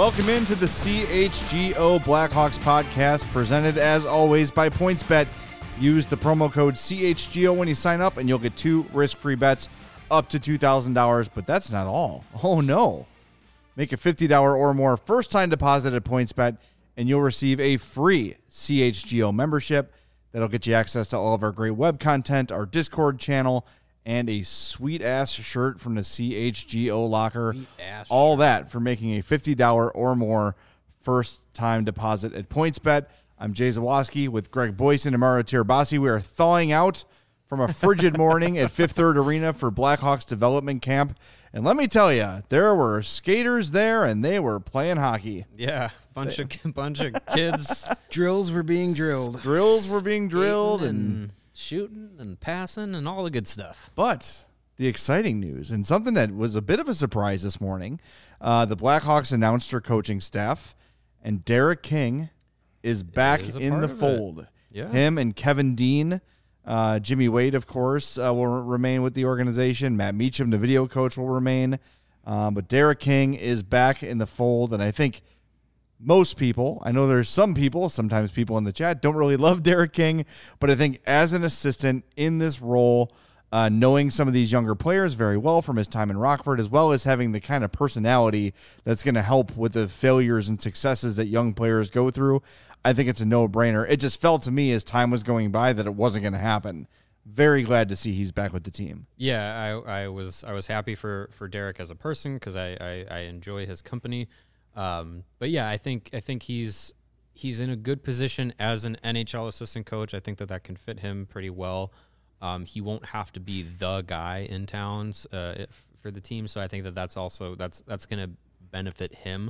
Welcome into the CHGO Blackhawks podcast, presented as always by PointsBet. Use the promo code CHGO when you sign up, and you'll get 2 risk-free bets up to $2,000. But that's not all. Oh, no. Make a $50 or more first-time deposit at PointsBet, and you'll receive a free CHGO membership. That'll get you access to all of our great web content, our Discord channel, and a sweet-ass shirt from the CHGO locker. All that for making a $50 or more first-time deposit at PointsBet. I'm Jay Zawoski with Greg Boyson and Mario Tirabassi. We are thawing out from a frigid morning at Fifth Third Arena for Blackhawks development camp. And let me tell you, there were skaters there, and they were playing hockey. Yeah, bunch of kids. Drills were being drilled. Drills were being drilled and shooting and passing and all the good stuff. But the exciting news, and something that was a bit of a surprise this morning, the Blackhawks announced their coaching staff, and Derek King is back in the fold. Yeah. Him and Kevin Dean, Jimmy Wade, of course, will remain with the organization. Matt Meacham, the video coach, will remain. But Derek King is back in the fold, and I think most people, I know there's some people, sometimes people in the chat, don't really love Derek King, but I think as an assistant in this role, knowing some of these younger players very well from his time in Rockford, as well as having the kind of personality that's going to help with the failures and successes that young players go through, I think it's a no-brainer. It just felt to me as time was going by that it wasn't going to happen. Very glad to see he's back with the team. Yeah, I was happy for Derek as a person because I enjoy his company. But yeah, I think he's in a good position as an NHL assistant coach. I think that can fit him pretty well. He won't have to be the guy in towns for the team, so I think that's going to benefit him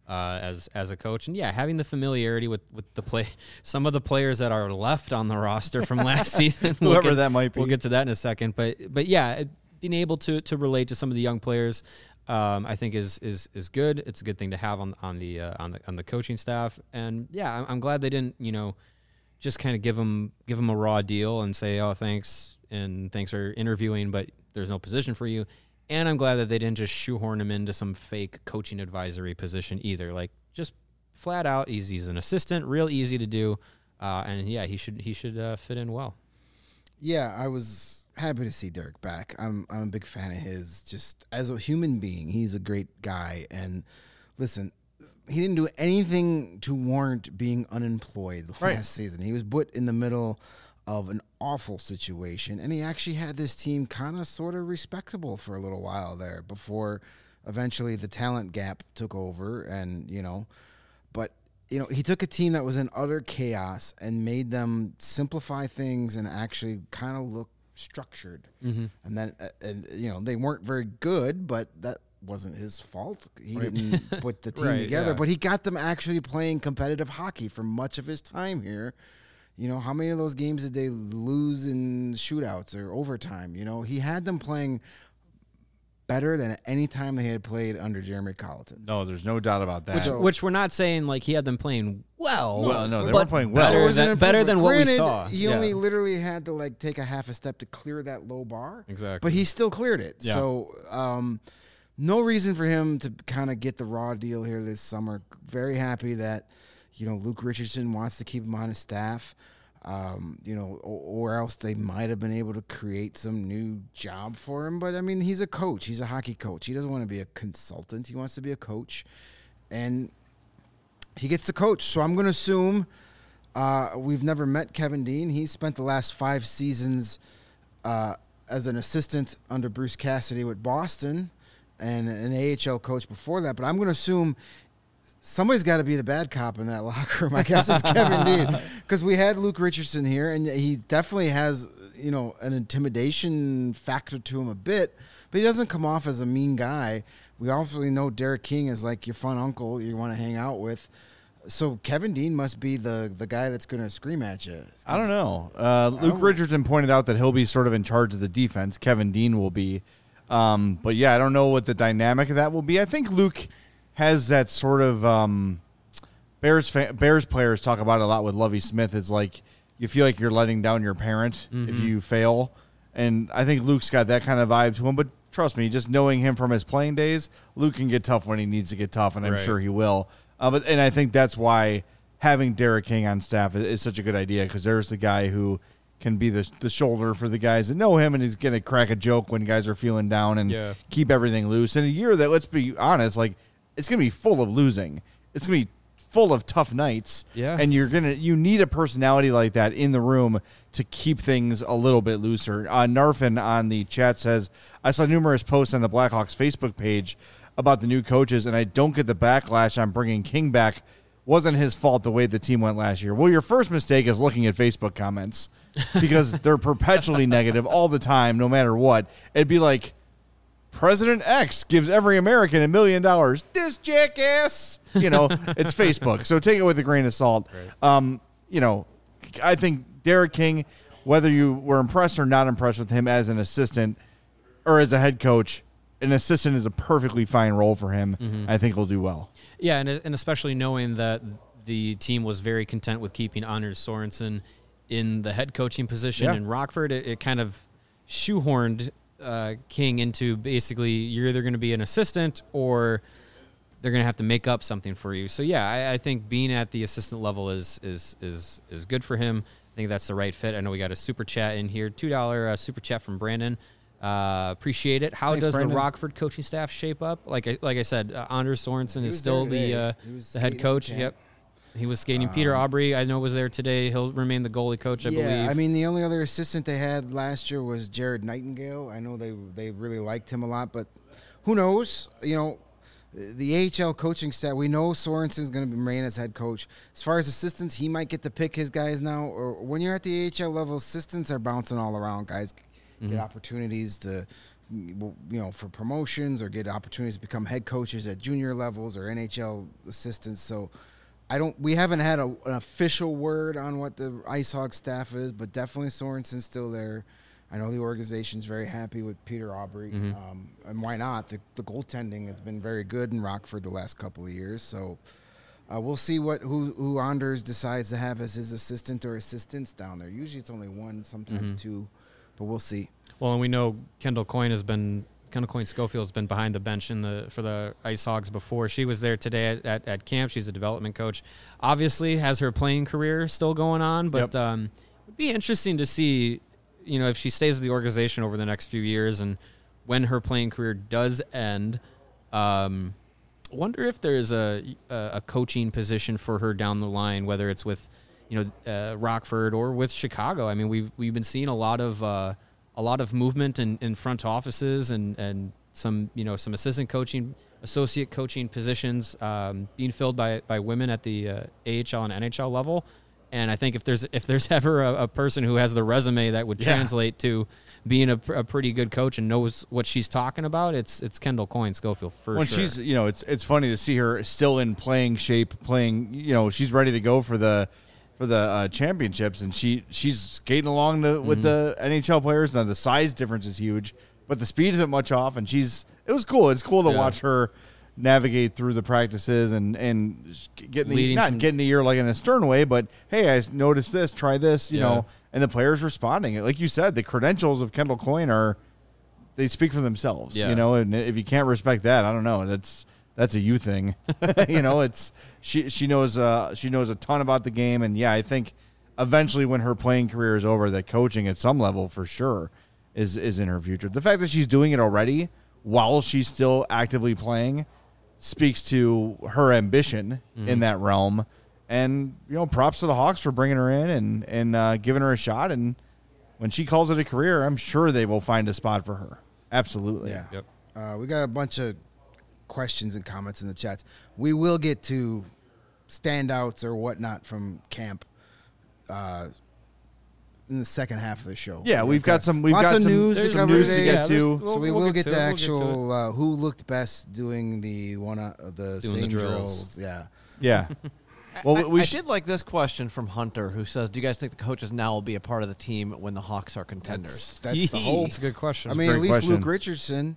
as a coach. And yeah, having the familiarity with some of the players that are left on the roster from last season, whoever that might be. We'll get to that in a second. But yeah, being able to relate to some of the young players, I think is good. It's a good thing to have on the coaching staff. And yeah, I'm glad they didn't just kind of give him a raw deal and say, oh, thanks for interviewing, but there's no position for you. And I'm glad that they didn't just shoehorn him into some fake coaching advisory position either. Like, just flat out, he's an assistant, real easy to do, and yeah, he should fit in well. Yeah, I was happy to see Derek back. I'm a big fan of his. Just as a human being, he's a great guy. And listen, he didn't do anything to warrant being unemployed last season. He was put in the middle of an awful situation, and he actually had this team kind of sort of respectable for a little while there before eventually the talent gap took over. And but he took a team that was in utter chaos and made them simplify things and actually kind of look structured. Mm-hmm. And then they weren't very good, but that wasn't his fault. He didn't put the team together, but he got them actually playing competitive hockey for much of his time here. How many of those games did they lose in shootouts or overtime? He had them playing better than any time they had played under Jeremy Colleton. No, there's no doubt about that. Which we're not saying like he had them playing well. No, they weren't playing well. Better than what we saw. He only literally had to take a half a step to clear that low bar. Exactly. But he still cleared it. Yeah. So no reason for him to kind of get the raw deal here this summer. Very happy that Luke Richardson wants to keep him on his staff, or else they might have been able to create some new job for him. But, I mean, he's a coach. He's a hockey coach. He doesn't want to be a consultant. He wants to be a coach. And he gets to coach. So I'm going to assume we've never met Kevin Dean. He spent the last 5 seasons as an assistant under Bruce Cassidy with Boston and an AHL coach before that. But I'm going to assume somebody's got to be the bad cop in that locker room. I guess it's Kevin Dean, because we had Luke Richardson here, and he definitely has, an intimidation factor to him a bit, but he doesn't come off as a mean guy. We obviously know Derek King is like your fun uncle you want to hang out with. So Kevin Dean must be the guy that's going to scream at you. I don't know. Luke Richardson pointed out that he'll be sort of in charge of the defense. Kevin Dean will be. But yeah, I don't know what the dynamic of that will be. I think Luke has that sort of Bears players talk about it a lot with Lovie Smith. It's like you feel like you're letting down your parent if you fail. And I think Luke's got that kind of vibe to him. But trust me, just knowing him from his playing days, Luke can get tough when he needs to get tough, and I'm sure he will. And I think that's why having Derek King on staff is such a good idea, because there's the guy who can be the shoulder for the guys that know him, and he's going to crack a joke when guys are feeling down and keep everything loose. In a year that, let's be honest, like, it's going to be full of losing. It's going to be full of tough nights. Yeah. And you need a personality like that in the room to keep things a little bit looser. Narfin on the chat says, I saw numerous posts on the Blackhawks Facebook page about the new coaches, and I don't get the backlash on bringing King back. Wasn't his fault the way the team went last year. Well, your first mistake is looking at Facebook comments, because they're perpetually negative all the time, no matter what. It'd be like, President X gives every American $1 million. This jackass, it's Facebook. So take it with a grain of salt. Right. I think Derek King, whether you were impressed or not impressed with him as an assistant or as a head coach, an assistant is a perfectly fine role for him. Mm-hmm. I think he'll do well. Yeah, and especially knowing that the team was very content with keeping Anders Sorensen in the head coaching position in Rockford, it kind of shoehorned King into basically you're either going to be an assistant or they're going to have to make up something for you. So yeah, I think being at the assistant level is good for him. I think that's the right fit. I know we got a super chat in here, $2 super chat from Brandon. Appreciate it. How does Brandon. The Rockford coaching staff shape up? Like I said, Anders Sorensen is still the head coach. Yep. He was skating. Peter Aubry, I know, was there today. He'll remain the goalie coach, I believe. Yeah, I mean, the only other assistant they had last year was Jared Nightingale. I know they really liked him a lot, but who knows? The AHL coaching staff, we know Sorensen's going to remain as head coach. As far as assistants, he might get to pick his guys now. Or when you're at the AHL level, assistants are bouncing all around. Guys get opportunities to, for promotions, or get opportunities to become head coaches at junior levels or NHL assistants. So we haven't had an official word on what the Ice Hogs staff is, but definitely Sorensen's still there. I know the organization's very happy with Peter Aubry, and why not? The goaltending has been very good in Rockford the last couple of years, so we'll see who Anders decides to have as his assistant or assistants down there. Usually it's only one, sometimes two, but we'll see. Well, and we know Kendall Coyne Schofield has been behind the bench for the Ice Hogs before. She was there today at camp. She's a development coach. Obviously has her playing career still going on, but it'd be interesting to see, if she stays with the organization over the next few years, and when her playing career does end, wonder if there's a coaching position for her down the line, whether it's with Rockford or with Chicago. I mean, we've been seeing a lot of movement in front offices and some assistant coaching, associate coaching positions being filled by women at the AHL and NHL level. And I think if there's ever a person who has the resume that would translate to being a pretty good coach and knows what she's talking about, it's Kendall Coyne Schofield for sure. She's it's funny to see her still in playing shape, she's ready to go for the championships, and she's skating along with the NHL players. Now the size difference is huge, but the speed isn't much off, and it was cool. It's cool to watch her navigate through the practices and getting the ear like in a stern way, but hey, I noticed this, try this, and the players responding. Like you said, the credentials of Kendall Coyne they speak for themselves, and if you can't respect that, I don't know, that's a you thing. It's she knows a ton about the game, and I think eventually when her playing career is over, that coaching at some level for sure is in her future. The fact that she's doing it already while she's still actively playing speaks to her ambition in that realm, and props to the Hawks for bringing her in and giving her a shot. And when she calls it a career, I'm sure they will find a spot for her. Absolutely. Yeah. Yep. We got a bunch of questions and comments in the chats. We will get to standouts or whatnot from camp in the second half of the show. Yeah, we've got some news to get to. So we will get to actual who looked best doing the same drills. Yeah. Well, I did like this question from Hunter, who says, "Do you guys think the coaches now will be a part of the team when the Hawks are contenders?" That's the hope. That's a good question. I mean, at least Luke Richardson.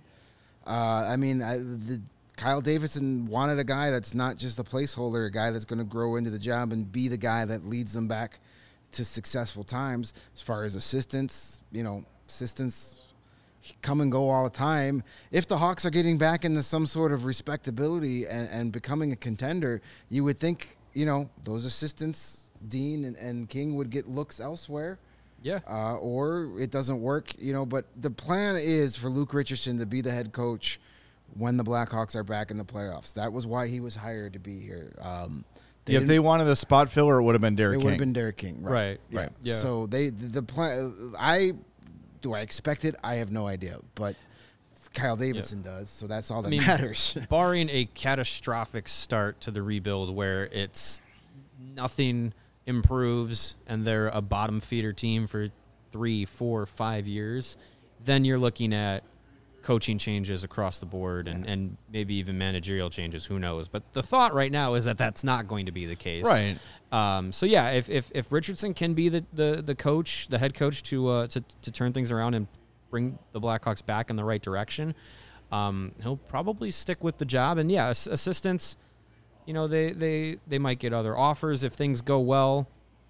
Kyle Davidson wanted a guy that's not just a placeholder, a guy that's going to grow into the job and be the guy that leads them back to successful times. As far as assistants, come and go all the time. If the Hawks are getting back into some sort of respectability and becoming a contender, you would think, those assistants, Dean and King, would get looks elsewhere. Yeah. Or it doesn't work, but the plan is for Luke Richardson to be the head coach when the Blackhawks are back in the playoffs. That was why he was hired to be here. If they wanted a spot filler, it would have been Derek King. It would have been Derek King. Right. Yeah. So the plan, do I expect it? I have no idea, but Kyle Davidson does, so that's all that matters. Barring a catastrophic start to the rebuild where it's nothing improves and they're a bottom feeder team for 3, 4, 5 years, then you're looking at coaching changes across the board and maybe even managerial changes. Who knows? But the thought right now is that that's not going to be the case. Right. So yeah, if Richardson can be the coach, the head coach to turn things around and bring the Blackhawks back in the right direction, he'll probably stick with the job. And yeah, assistants, they might get other offers if things go well.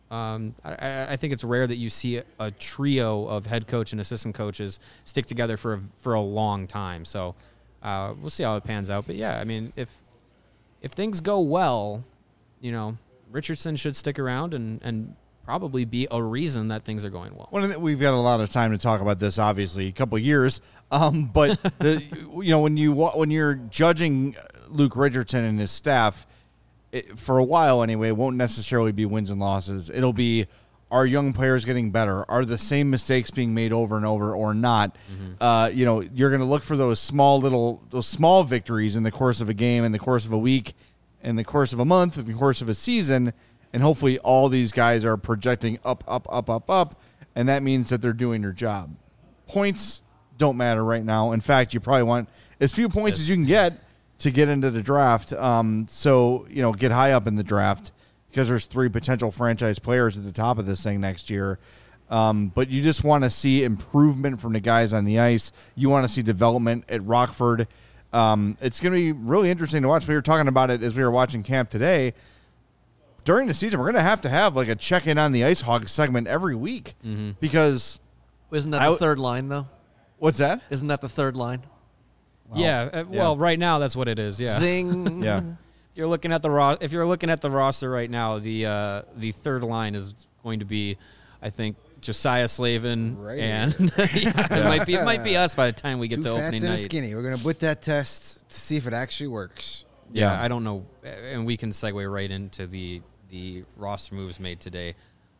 I think it's rare that you see a trio of head coach and assistant coaches stick together for a long time. So we'll see how it pans out. But yeah, I mean, if things go well, Richardson should stick around and probably be a reason that things are going well. We've got a lot of time to talk about this, obviously, a couple of years. But when you're judging Luke Richardson and his staff, for a while anyway, it won't necessarily be wins and losses. It'll be, are young players getting better? Are the same mistakes being made over and over or not? Mm-hmm. You're going to look for those small victories in the course of a game, in the course of a week, in the course of a month, in the course of a season, and hopefully all these guys are projecting up, and that means that they're doing their job. Points don't matter right now. In fact, you probably want as few points as you can get to get into the draft. So get high up in the draft because there's 3 potential franchise players at the top of this thing next year. But you just want to see improvement from the guys on the ice. You want to see development at Rockford. It's going to be really interesting to watch. We were talking about it as we were watching camp today. During the season, we're going to have like a check-in on the Ice Hogs segment every week because... Isn't that the third line, though? What's that? Isn't that the third line? Wow. Yeah. Well, right now that's what it is. Yeah. Zing. Yeah. If you're looking at the roster right now, the third line is going to be, I think, Josiah Slavin, and it might be us by the time we get to opening night. 2 fats and a skinny. We're gonna put that test to see if it actually works. Yeah, I don't know, and we can segue right into the roster moves made today.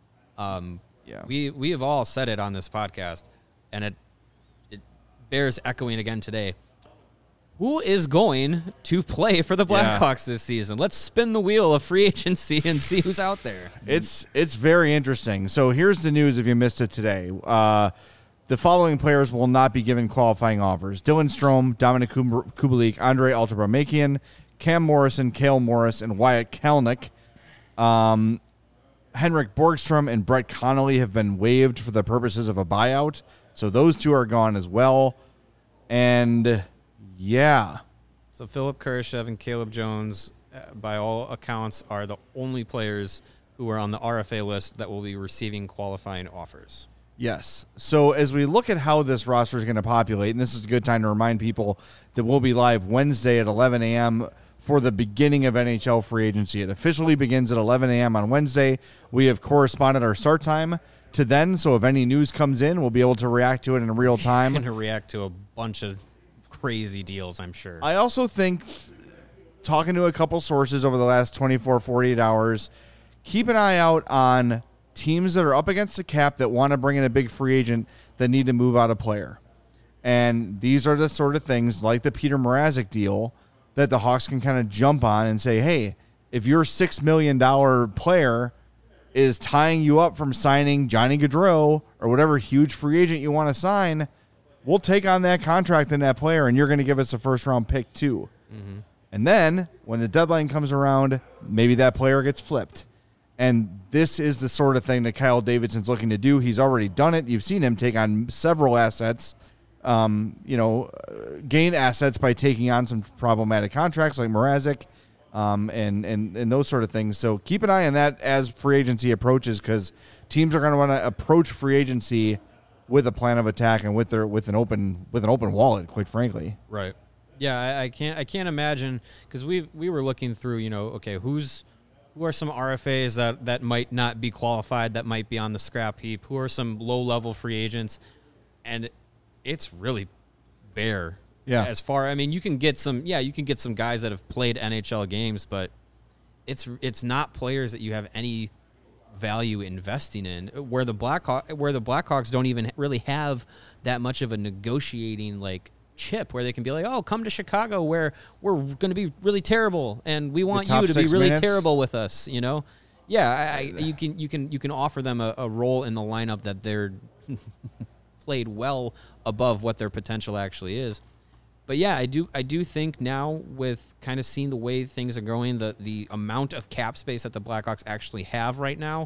We have all said it on this podcast, and it bears echoing again today. Who is going to play for the Blackhawks this season? Let's spin the wheel of free agency and see who's out there. It's very interesting. So here's the news if you missed it today. The following players will not be given qualifying offers. Dylan Strome, Dominic Kubalik, Andre Altebramakian, Cam Morrison, Cale Morris, and Wyatt Kalnick. Henrik Borgstrom and Brett Connolly have been waived for the purposes of a buyout. So those 2 are gone as well. And... yeah. So Philip Kurashev and Caleb Jones, by all accounts, are the only players who are on the RFA list that will be receiving qualifying offers. Yes. So as we look at how this roster is going to populate, and this is a good time to remind people that we'll be live Wednesday at 11 a.m. for the beginning of NHL free agency. It officially begins at 11 a.m. on Wednesday. We have corresponded our start time to then, so if any news comes in, we'll be able to react to it in real time. And to react to a bunch of crazy deals, I'm sure. I also think, talking to a couple sources over the last 24, 48 hours, keep an eye out on teams that are up against the cap that want to bring in a big free agent that need to move out a player. And these are the sort of things like the Peter Mrazek deal that the Hawks can kind of jump on and say, hey, if your $6 million player is tying you up from signing Johnny Gaudreau or whatever huge free agent you want to sign, we'll take on that contract and that player, and you're going to give us a first-round pick too. Mm-hmm. And then when the deadline comes around, maybe that player gets flipped. And this is the sort of thing that Kyle Davidson's looking to do. He's already done it. You've seen him take on several assets, gain assets by taking on some problematic contracts like Mrazek and those sort of things. So keep an eye on that as free agency approaches, because teams are going to want to approach free agency with a plan of attack and with an open wallet, quite frankly. Right. Yeah, I can't imagine, because we were looking through, okay, who are some RFAs that might not be qualified, that might be on the scrap heap? Who are some low-level free agents? And it's really bare. Yeah. You can get some guys that have played NHL games, but it's not players that you have any value investing in, where the Blackhawks don't even really have that much of a negotiating chip where they can be like, oh, come to Chicago where we're going to be really terrible and we want you to be really terrible with us, Yeah, you can offer them a role in the lineup that they're played well above what their potential actually is. But yeah, I do think now, with kind of seeing the way things are going, the amount of cap space that the Blackhawks actually have right now,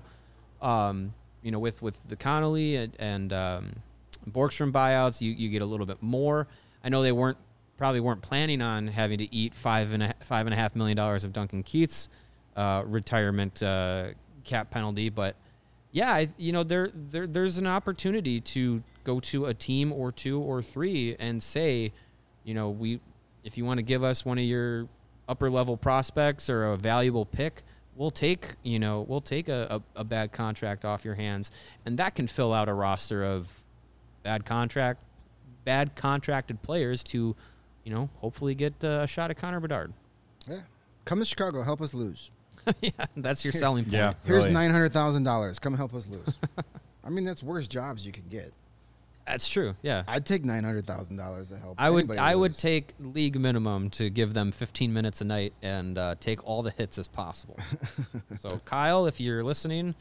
with the Connolly and Borgstrom buyouts, you get a little bit more. I know they probably weren't planning on having to eat $5.5 million of Duncan Keith's retirement cap penalty, but yeah, there's an opportunity to go to a team or two or three and say, if you want to give us one of your upper level prospects or a valuable pick, we'll take a bad contract off your hands, and that can fill out a roster of bad contracted players to, hopefully get a shot at Connor Bedard. Yeah, come to Chicago, help us lose. Yeah, that's your selling point. Yeah, here's really. $900,000. Come help us lose. I mean, that's worse jobs you can get. That's true. Yeah, I'd take $900,000 to help. I would lose. take league minimum to give them 15 minutes a night and take all the hits as possible. So Kyle, if you're listening,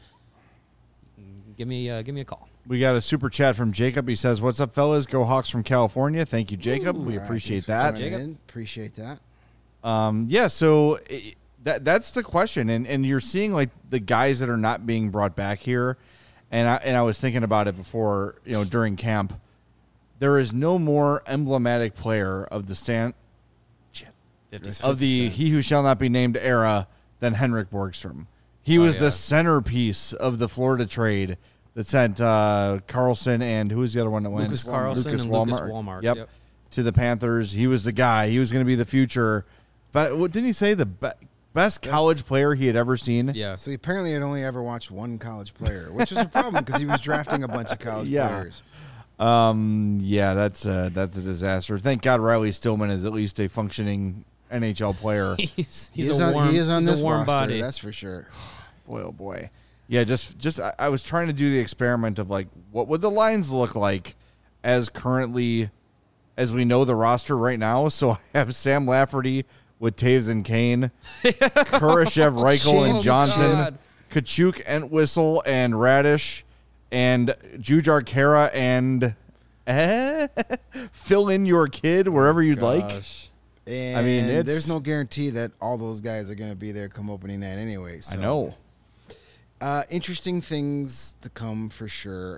give me a call. We got a super chat from Jacob. He says, "What's up, fellas? Go Hawks from California." Thank you, Jacob. We appreciate that. Jacob. Appreciate that. Yeah. So that's the question, and you're seeing the guys that are not being brought back here. And I was thinking about it before, during camp. There is no more emblematic player of the he who shall not be named era than Henrik Borgstrom. He was the centerpiece of the Florida trade that sent Carlson and who was the other one that went? Lucas Carlson and Lucas Walmart. Yep. To the Panthers. He was the guy. He was going to be the future. But what didn't he say? The best college player he had ever seen. Yeah. So he apparently had only ever watched one college player, which is a problem because he was drafting a bunch of college players. Yeah, that's a disaster. Thank God Riley Stillman is at least a functioning NHL player. He is on this roster, body. That's for sure. Boy, oh boy. Yeah, just I was trying to do the experiment of what would the lines look like as currently as we know the roster right now. So I have Sam Lafferty with Taves and Kane, Kurashev, Reichel, and Johnson, Kachuk, Entwistle, and Radish, and Jujar Kara, and fill in your kid wherever you'd like. And I mean, there's no guarantee that all those guys are going to be there come opening night anyway. So. I know. Interesting things to come for sure.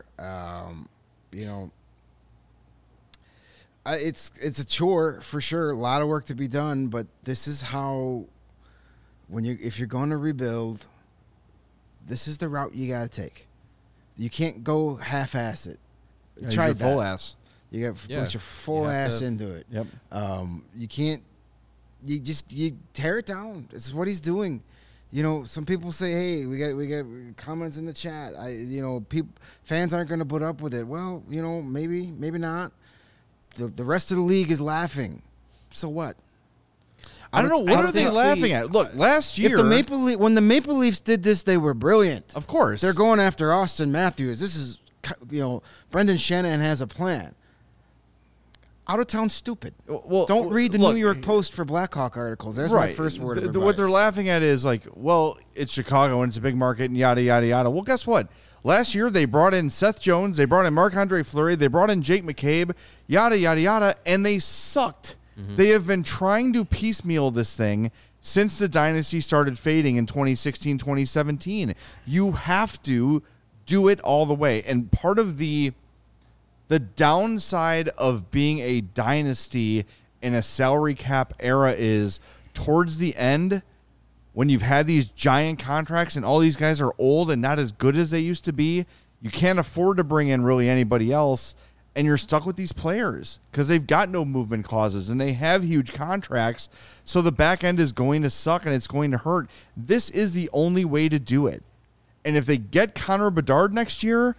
It's a chore for sure. A lot of work to be done, but this is how if you're going to rebuild, this is the route you got to take. You can't go half-ass it. Try that. Full ass. You got to put your full ass into it. Yep. You can't. You tear it down. This is what he's doing. Some people say, "Hey, we got comments in the chat. Fans aren't going to put up with it." Well, maybe not. The rest of the league is laughing. So what? I don't know. What are they laughing at? Look, last year, when the Maple Leafs did this, they were brilliant. Of course, they're going after Austin Matthews. This is, Brendan Shanahan has a plan. Out of town, stupid. Well, don't read the New York Post for Blackhawk articles. There's my first word of advice. What they're laughing at is it's Chicago and it's a big market and yada yada yada. Well, guess what? Last year they brought in Seth Jones, they brought in Marc-Andre Fleury, they brought in Jake McCabe, yada yada yada, and they sucked. Mm-hmm. They have been trying to piecemeal this thing since the dynasty started fading in 2016, 2017. You have to do it all the way, and part of the downside of being a dynasty in a salary cap era is towards the end, when you've had these giant contracts and all these guys are old and not as good as they used to be, You can't afford to bring in really anybody else, and you're stuck with these players because they've got no movement clauses and they have huge contracts. So the back end is going to suck and it's going to hurt. This is the only way to do it. And if they get Connor Bedard next year,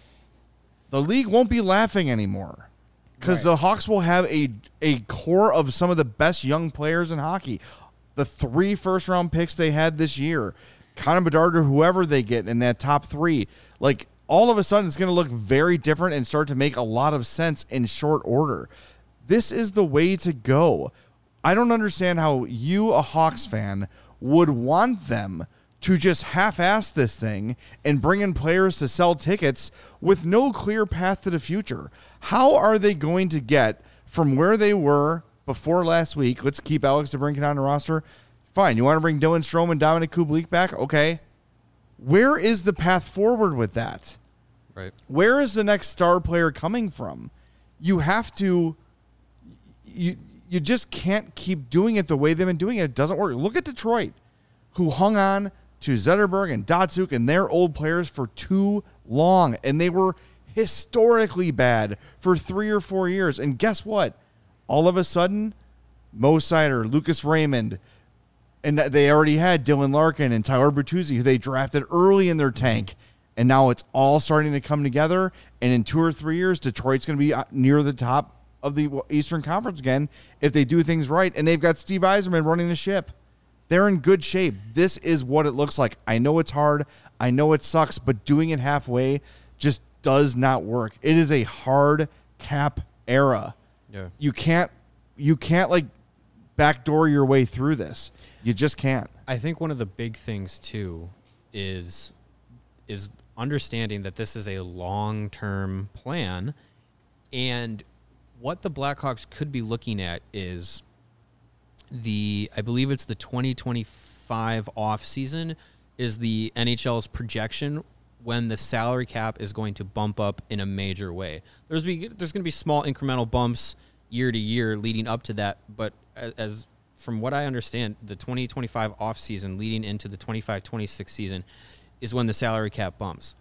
the league won't be laughing anymore because the Hawks will have a core of some of the best young players in hockey. The 3 first-round picks they had this year, Connor Bedard or whoever they get in that top 3, like, all of a sudden it's going to look very different and start to make a lot of sense in short order. This is the way to go. I don't understand how you, a Hawks fan, would want them to just half-ass this thing and bring in players to sell tickets with no clear path to the future. How are they going to get from where they were before last week? Let's keep Alex DeBrincat on the roster. Fine. You want to bring Dylan Strome and Dominic Kubalik back? Okay. Where is the path forward with that? Right. Where is the next star player coming from? You have to you just can't keep doing it the way they've been doing it. It doesn't work. Look at Detroit, who hung on to Zetterberg and Datsuk and their old players for too long, and they were historically bad for 3 or 4 years. And guess what? All of a sudden, Mo Seider, Lucas Raymond, and they already had Dylan Larkin and Tyler Bertuzzi, who they drafted early in their tank. And now it's all starting to come together. And in 2 or 3 years, Detroit's going to be near the top of the Eastern Conference again if they do things right. And they've got Steve Yzerman running the ship. They're in good shape. This is what it looks like. I know it's hard. I know it sucks. But doing it halfway just does not work. It is a hard cap era. Yeah. You can't like backdoor your way through this. You just can't. I think one of the big things too is understanding that this is a long-term plan, and what the Blackhawks could be looking at is I believe it's the 2025 off season is the NHL's projection when the salary cap is going to bump up in a major way. There's going to be small incremental bumps year to year leading up to that, but as from what I understand, the 2025 off season leading into the 25-26 season is when the salary cap bumps.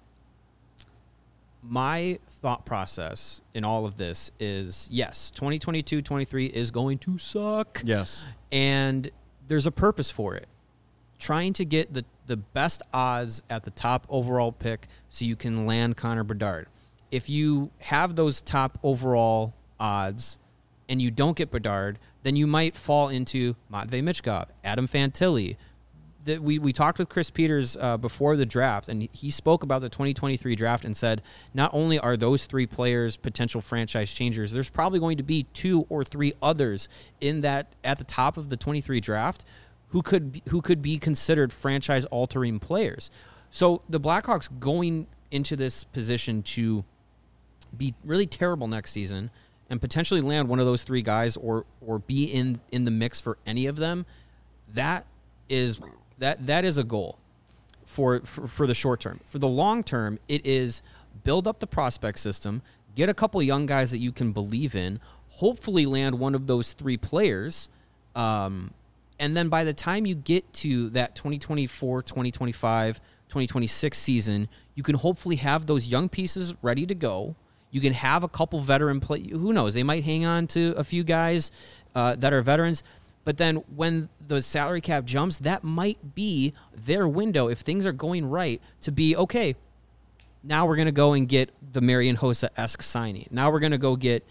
My thought process in all of this is, yes, 2022-23 is going to suck. Yes. And there's a purpose for it. Trying to get the best odds at the top overall pick so you can land Connor Bedard. If you have those top overall odds and you don't get Bedard, then you might fall into Matvei Michkov, Adam Fantilli. We talked with Chris Peters before the draft, and he spoke about the 2023 draft and said not only are those 3 players potential franchise changers, there's probably going to be 2 or 3 others in that at the top of the 23 draft who could be considered franchise-altering players. So the Blackhawks going into this position to be really terrible next season and potentially land one of those 3 guys or be in the mix for any of them, that is a goal for the short term. For the long term, it is build up the prospect system, get a couple young guys that you can believe in, hopefully land one of those 3 players, and then by the time you get to that 2024, 2025, 2026 season, you can hopefully have those young pieces ready to go. You can have a couple veteran play. Who knows? They might hang on to a few guys that are veterans. But then when the salary cap jumps, that might be their window, if things are going right, to be, okay, now we're going to go and get the Marian Hossa-esque signing. Now we're going to go get,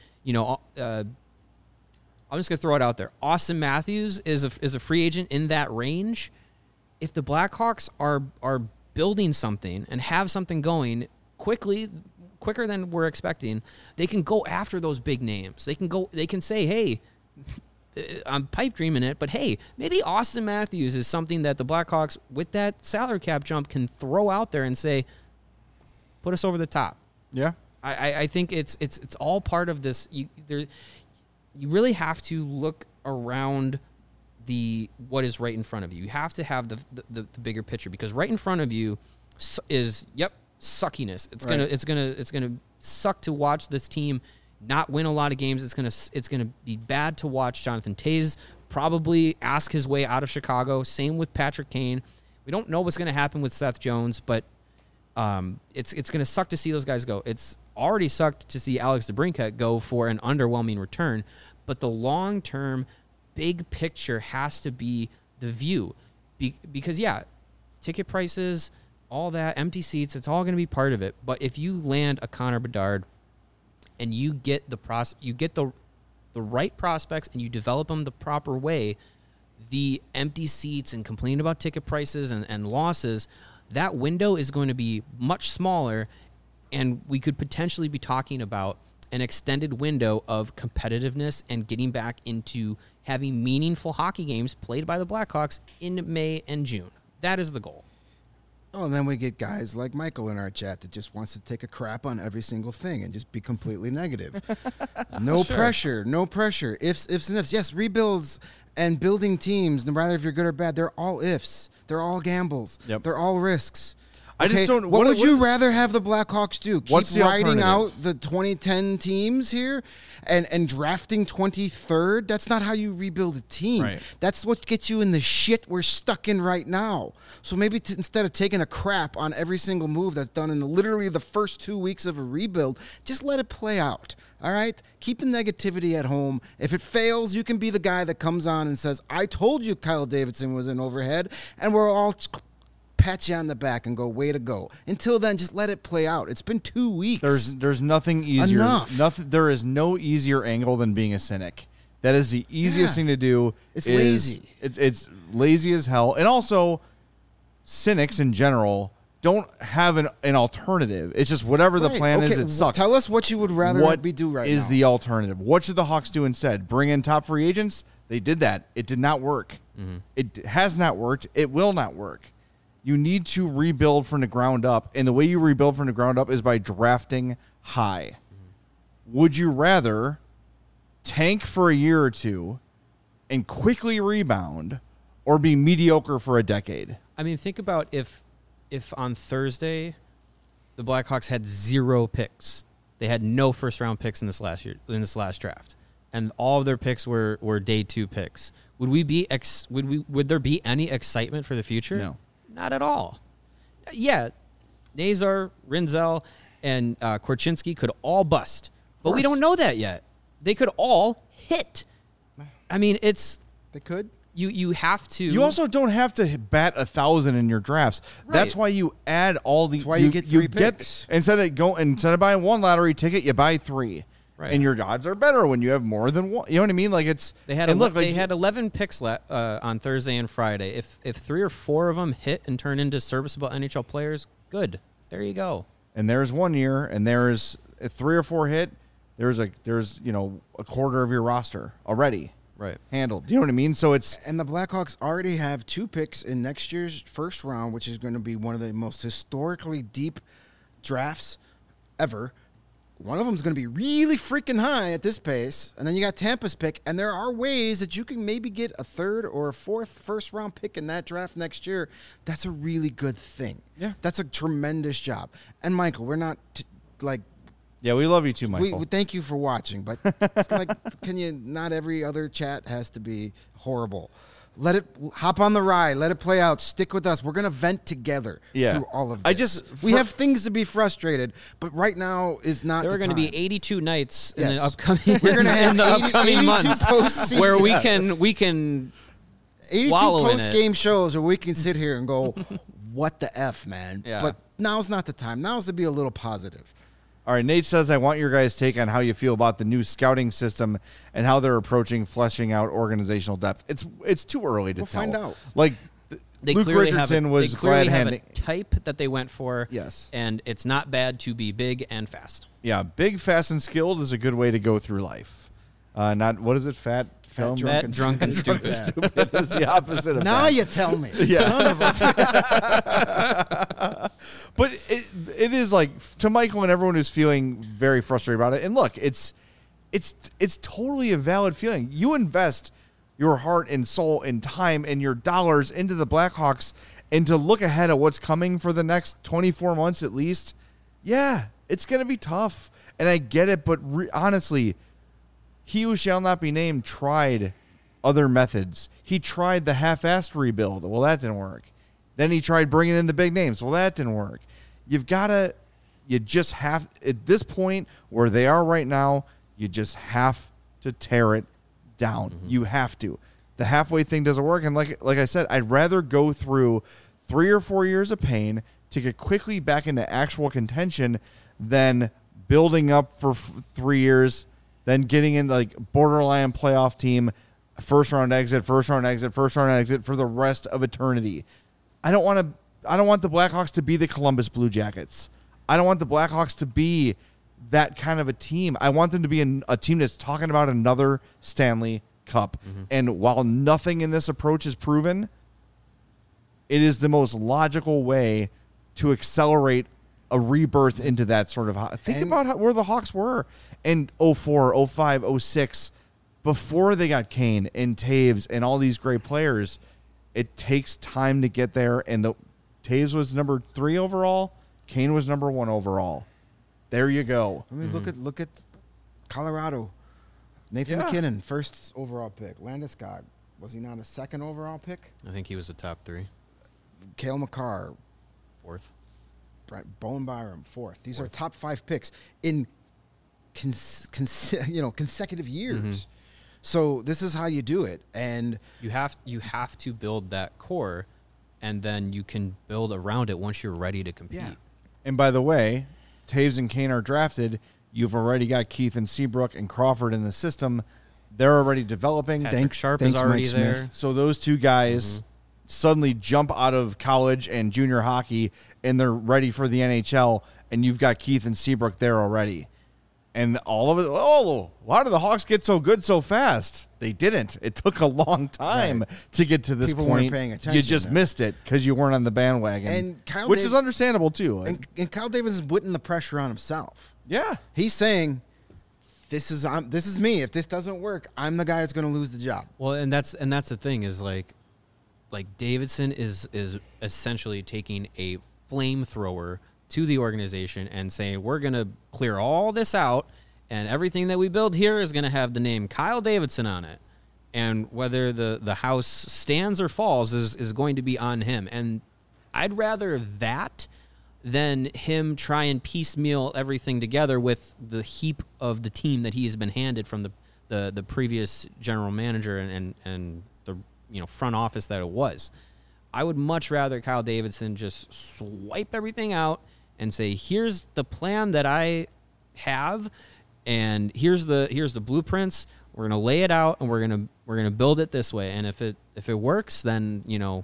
I'm just going to throw it out there. Austin Matthews is a free agent in that range. If the Blackhawks are building something and have something going quicker than we're expecting, they can go after those big names. They can say, hey, I'm pipe dreaming it, but hey, maybe Austin Matthews is something that the Blackhawks, with that salary cap jump, can throw out there and say, put us over the top. Yeah. I think it's all part of this. You really have to look around what is right in front of you. You have to have the bigger picture, because right in front of you is suckiness. It's gonna suck to watch this team not win a lot of games. It's gonna be bad to watch Jonathan Toews probably ask his way out of Chicago. Same with Patrick Kane. We don't know what's gonna happen with Seth Jones, but It's going to suck to see those guys go. It's already sucked to see Alex DeBrincat go for an underwhelming return, but the long-term big picture has to be the view. Because, yeah, ticket prices, all that, empty seats, it's all going to be part of it. But if you land a Connor Bedard and you get the right prospects and you develop them the proper way, the empty seats and complaining about ticket prices and losses, that window is going to be much smaller, and we could potentially be talking about an extended window of competitiveness and getting back into having meaningful hockey games played by the Blackhawks in May and June. That is the goal. Oh, and then we get guys like Michael in our chat that just wants to take a crap on every single thing and just be completely negative. No pressure, no pressure. Ifs and ifs. Yes, rebuilds and building teams, no matter if you're good or bad, they're all ifs. They're all gambles. Yep. They're all risks. I just don't. What would you rather have the Blackhawks do? Keep What's the riding alternative? out the 2010 teams here and drafting 23rd? That's not how you rebuild a team. Right. That's what gets you in the shit we're stuck in right now. So maybe instead of taking a crap on every single move that's done in literally the first 2 weeks of a rebuild, just let it play out. All right? Keep the negativity at home. If it fails, you can be the guy that comes on and says, I told you Kyle Davidson was an overhead, and we're all pat you on the back and go, way to go. Until then, just let it play out. It's been 2 weeks. There's nothing easier. Enough. There is no easier angle than being a cynic. That is the easiest thing to do. It's lazy. It's lazy as hell. And also, cynics in general don't have an alternative. It's just whatever the plan is, it sucks. Tell us what you would rather be do right now. What is the alternative? What should the Hawks do instead? Bring in top free agents? They did that. It did not work. Mm-hmm. It has not worked. It will not work. You need to rebuild from the ground up, and the way you rebuild from the ground up is by drafting high. Mm-hmm. Would you rather tank for a year or two and quickly rebound, or be mediocre for a decade? I mean, think about if on Thursday the Blackhawks had 0 picks. They had no first-round picks in this last draft, and all of their picks were day 2 picks. Would there be any excitement for the future? No. Not at all. Yeah, Nazar, Rinzel, and Korchinski could all bust, but we don't know that yet. They could all hit. I mean, They could. You have to. You also don't have to bat 1,000 in your drafts. Right. That's why you add all the. That's why you get 3 picks. Instead of buying 1 lottery ticket, you buy 3. Right. And your odds are better when you have more than 1. You know what I mean? Like it's. They had they had 11 picks on Thursday and Friday. If 3 or 4 of them hit and turn into serviceable NHL players, good. There you go. And there's 1 year, and there's if 3 or 4 hit. There's a quarter of your roster already. Right. Handled. You know what I mean? So it's. And the Blackhawks already have 2 picks in next year's first round, which is going to be one of the most historically deep drafts ever. One of them is going to be really freaking high at this pace. And then you got Tampa's pick. And there are ways that you can maybe get a 3rd or a 4th first-round pick in that draft next year. That's a really good thing. Yeah. That's a tremendous job. And, Michael, we're not, Yeah, we love you too, Michael. we thank you for watching. But it's not every other chat has to be horrible. Let it hop on the ride. Let it play out. Stick with us. We're going to vent together through all of this. We have things to be frustrated, but right now is not There the are going to time. be 82 nights in Yes. the upcoming We're gonna have in the 80 upcoming 82 months postseason. where we can 82 wallow in it. post-game shows where we can sit here and go, what the F, man? Yeah. But now's not the time. Now's to be a little positive. All right, Nate says, I want your guys' take on how you feel about the new scouting system and how they're approaching fleshing out organizational depth. It's too early to We'll tell. find out. Like, They Luke clearly have Richardson was they clearly glad have handing. a type that they went for. Yes. And it's not bad to be big and fast. Yeah, big, fast, and skilled is a good way to go through life. Not, what is it, fat, film? Fat, drunk, and stupid. Stupid is the opposite of Now fat. you tell me. Yeah. Son of a But it is like, to Michael and everyone who's feeling very frustrated about it, and look, it's totally a valid feeling. You invest your heart and soul and time and your dollars into the Blackhawks, and to look ahead at what's coming for the next 24 months at least, yeah, it's going to be tough. And I get it, but honestly, he who shall not be named tried other methods. He tried the half-assed rebuild. Well, that didn't work. Then he tried bringing in the big names. Well, that didn't work. you just have, at this point where they are right now, you just have to tear it down. You have to. The halfway thing doesn't work. And like I said, I'd rather go through 3 or 4 years of pain to get quickly back into actual contention than building up for 3 years, then getting in like borderline playoff team, first round exit for the rest of eternity. I don't want the Blackhawks to be the Columbus Blue Jackets. I don't want the Blackhawks to be that kind of a team. I want them to be a team that's talking about another Stanley Cup. And while nothing in this approach is proven, it is the most logical way to accelerate a rebirth into that sort of... Think about where the Hawks were in 04, 05, 06, before they got Kane and Taves and all these great players. It takes time to get there, and Taves was number 3 overall. Kane was number 1 overall. There you go. I mean, look at Colorado. Nathan McKinnon, first overall pick. Landeskog, was he not a second overall pick? I think he was a top 3. Cale Makar, 4th. Bowen Byram, 4th. These are top 5 picks in consecutive years. So this is how you do it, and you have to build that core, and then you can build around it once you're ready to compete. Yeah. And by the way, Taves and Kane are drafted. You've already got Keith and Seabrook and Crawford in the system. They're already developing. Patrick Sharp is already there. So those two guys suddenly jump out of college and junior hockey, and they're ready for the NHL, and you've got Keith and Seabrook there already. And all of it, why did the Hawks get so good so fast? They didn't. It took a long time to get to this People point. weren't paying attention You just missed it because you weren't on the bandwagon, And which is understandable too. And Kyle Davis is putting the pressure on himself. Yeah. He's saying, this is me. If this doesn't work, I'm the guy that's going to lose the job. Well, and that's the thing is like Davidson is essentially taking a flamethrower to the organization and saying, we're going to clear all this out, and everything that we build here is going to have the name Kyle Davidson on it. And whether the house stands or falls is going to be on him. And I'd rather that than him try and piecemeal everything together with the heap of the team that he has been handed from the previous general manager and the front office that it was. I would much rather Kyle Davidson just swipe everything out and say, here's the plan that I have, and here's the blueprints. We're gonna lay it out, and we're gonna build it this way. And if it works, then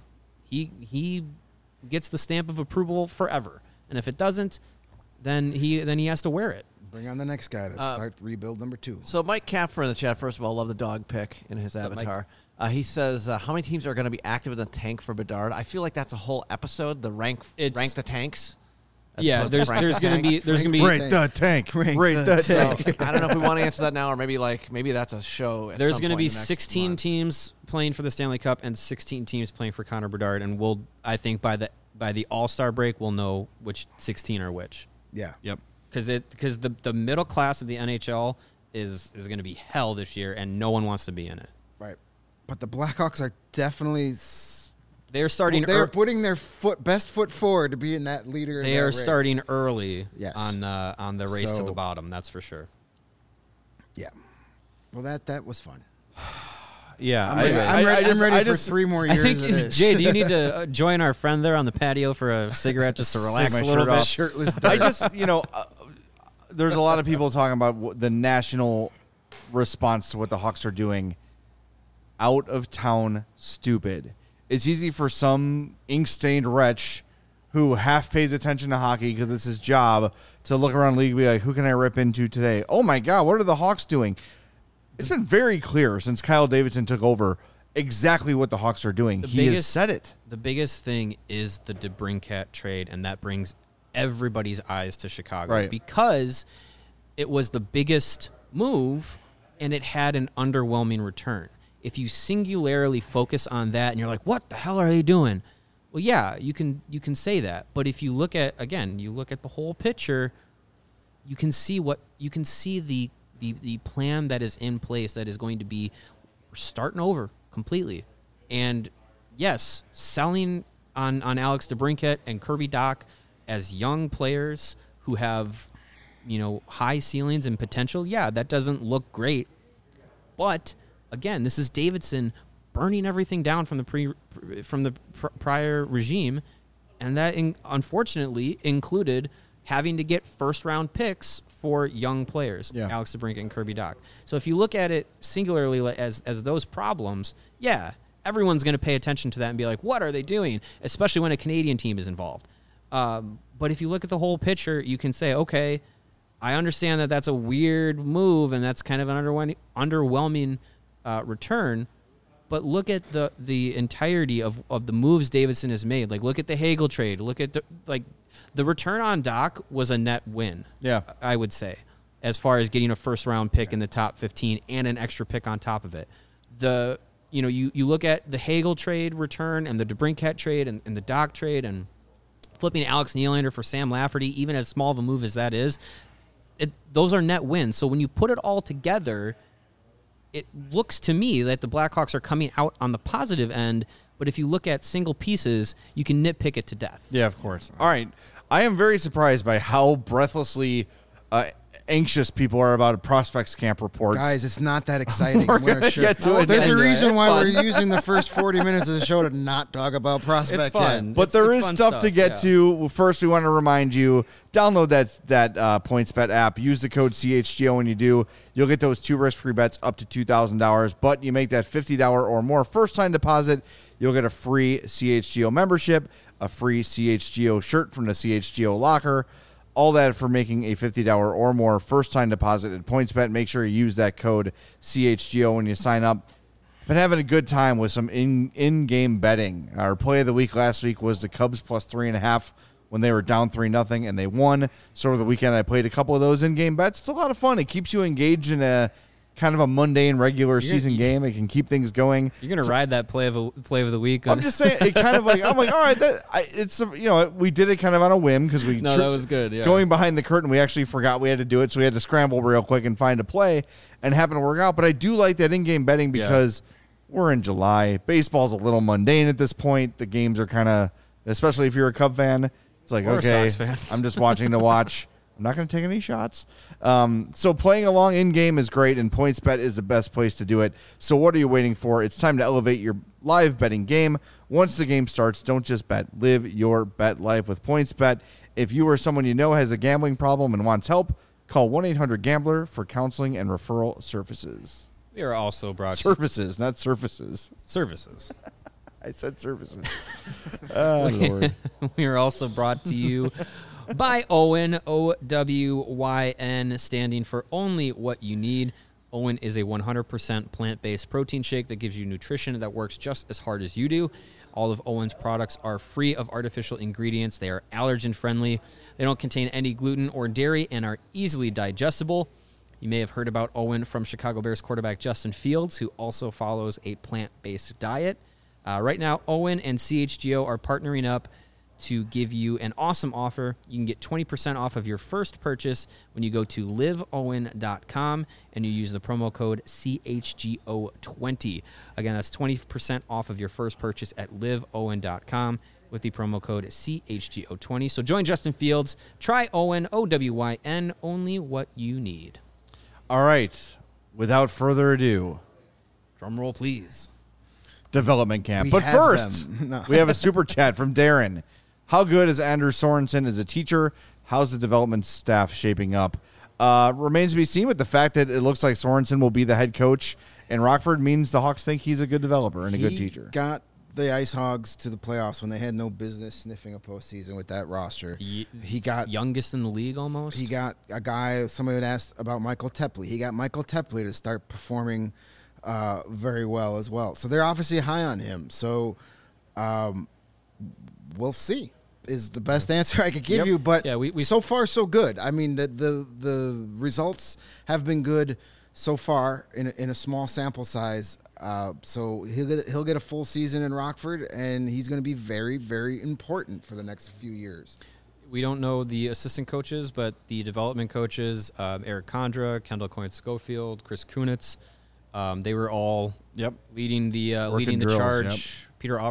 he gets the stamp of approval forever. And if it doesn't, then he has to wear it. Bring on the next guy to start rebuild number 2. So Mike Capper in the chat, first of all, love the dog pick in his avatar. He says, how many teams are going to be active in the tank for Bedard? I feel like that's a whole episode, the rank the tanks. Yeah, there's going to be Rank the tank. Rank the tank. So, I don't know if we want to answer that now, or maybe that's a show. There's going to be 16 16 teams playing for the Stanley Cup and 16 teams playing for Connor Bedard, and I think by the All-Star break we'll know which 16 are which. Yeah. Yep. Because the middle class of the NHL is going to be hell this year, and no one wants to be in it. Right. But the Blackhawks are definitely... They're starting. They're putting their best foot forward to be in that leader. They are starting early. Yes. On the race to the bottom. That's for sure. Yeah. Well, that was fun. Yeah, I'm ready for 3 more years. I think Jay, do you need to join our friend there on the patio for a cigarette just to relax a little bit? Shirtless. I just there's a lot of people talking about the national response to what the Hawks are doing. Out of town, stupid. It's easy for some ink-stained wretch who half pays attention to hockey because it's his job to look around the league and be like, who can I rip into today? Oh, my God, what are the Hawks doing? It's been very clear since Kyle Davidson took over exactly what the Hawks are doing. He has said it. The biggest thing is the DeBrincat trade, and that brings everybody's eyes to Chicago. Right. Because it was the biggest move, and it had an underwhelming return. If you singularly focus on that and you're like, what the hell are they doing? Well, yeah, you can say that. But if you look at the whole picture, you can see the plan that is in place that is going to be starting over completely. And yes, selling on Alex DeBrincat and Kirby Dach as young players who have, high ceilings and potential, yeah, that doesn't look great. But again, this is Davidson burning everything down from the prior regime, and that unfortunately included having to get first-round picks for young players, Alex DeBrincat and Kirby Dach. So if you look at it singularly as those problems, yeah, everyone's going to pay attention to that and be like, what are they doing? Especially when a Canadian team is involved. But if you look at the whole picture, you can say, okay, I understand that that's a weird move and that's kind of an underwhelming return. But look at the entirety of the moves Davidson has made. Like, look at the Hagel trade. Look at the return on Dach was a net win. Yeah, I would say, as far as getting a first round pick in the top 15 and an extra pick on top of it. You look at the Hagel trade return and the DeBrincat trade and the Dach trade and flipping Alex Nylander for Sam Lafferty, even as small of a move as that is, those are net wins. So when you put it all together, it looks to me that the Blackhawks are coming out on the positive end, but if you look at single pieces, you can nitpick it to death. Yeah, of course. All right. I am very surprised by how breathlessly anxious people are about prospects camp reports. Guys, it's not that exciting. We're going to get to it. There's a reason why we're using the first 40 minutes of the show to not talk about prospect It's fun. But there is stuff to get to. First, we want to remind you, download that PointsBet app. Use the code CHGO when you do. You'll get those 2 risk-free bets up to $2,000. But you make that $50 or more first-time deposit, you'll get a free CHGO membership, a free CHGO shirt from the CHGO locker. All that for making a $50 or more first-time deposit at PointsBet. Make sure you use that code CHGO when you sign up. Been having a good time with some in-game betting. Our play of the week last week was the Cubs plus 3.5 when they were down 3-0, and they won. So over the weekend, I played a couple of those in-game bets. It's a lot of fun. It keeps you engaged in a kind of a mundane regular season game. It can keep things going. You're gonna ride that play of the week. I'm just saying, it kind of like, I'm like, all right, we did it kind of on a whim because that was good. Yeah. Going behind the curtain, we actually forgot we had to do it, so we had to scramble real quick and find a play, and it happened to work out. But I do like that in-game betting because we're in July. Baseball's a little mundane at this point. The games are kind of, especially if you're a Cub fan, it's like, or okay, a Sox fan. I'm just watching to watch. I'm not going to take any shots. So playing along in-game is great, and PointsBet is the best place to do it. So what are you waiting for? It's time to elevate your live betting game. Once the game starts, don't just bet. Live your bet life with PointsBet. If you or someone you know has a gambling problem and wants help, call 1-800-GAMBLER for counseling and referral services. We are also brought Services, not surfaces. Services. I said services. Oh, Lord. We are also brought to you by Owyn, OWYN, standing for only what you need. Owyn is a 100% plant-based protein shake that gives you nutrition that works just as hard as you do. All of Owyn's products are free of artificial ingredients. They are allergen-friendly. They don't contain any gluten or dairy and are easily digestible. You may have heard about Owyn from Chicago Bears quarterback Justin Fields, who also follows a plant-based diet. Right now, Owyn and CHGO are partnering up to give you an awesome offer. You can get 20% off of your first purchase when you go to liveowyn.com and you use the promo code CHGO20. Again, that's 20% off of your first purchase at liveowyn.com with the promo code CHGO20. So join Justin Fields. Try Owyn, OWYN, only what you need. All right. Without further ado, drum roll, please. Development camp. But first, we have a super chat from Darren. How good is Anders Sorensen as a teacher? How's the development staff shaping up? Remains to be seen, with the fact that it looks like Sorensen will be the head coach in Rockford means the Hawks think he's a good developer and a good teacher. Got the Ice Hogs to the playoffs when they had no business sniffing a postseason with that roster. He got youngest in the league almost. He got a guy, somebody had asked about Michael Tepley. He got Michael Tepley to start performing very well as well. So they're obviously high on him. So we'll see is the best answer I could give you. But we so far so good. I mean, the results have been good so far in a small sample size. So he'll get a full season in Rockford, and he's going to be very, very important for the next few years. We don't know the assistant coaches, but the development coaches, Eric Condra, Kendall Coyne-Schofield, Chris Kunitz, they were all leading the charge. Peter Aubrey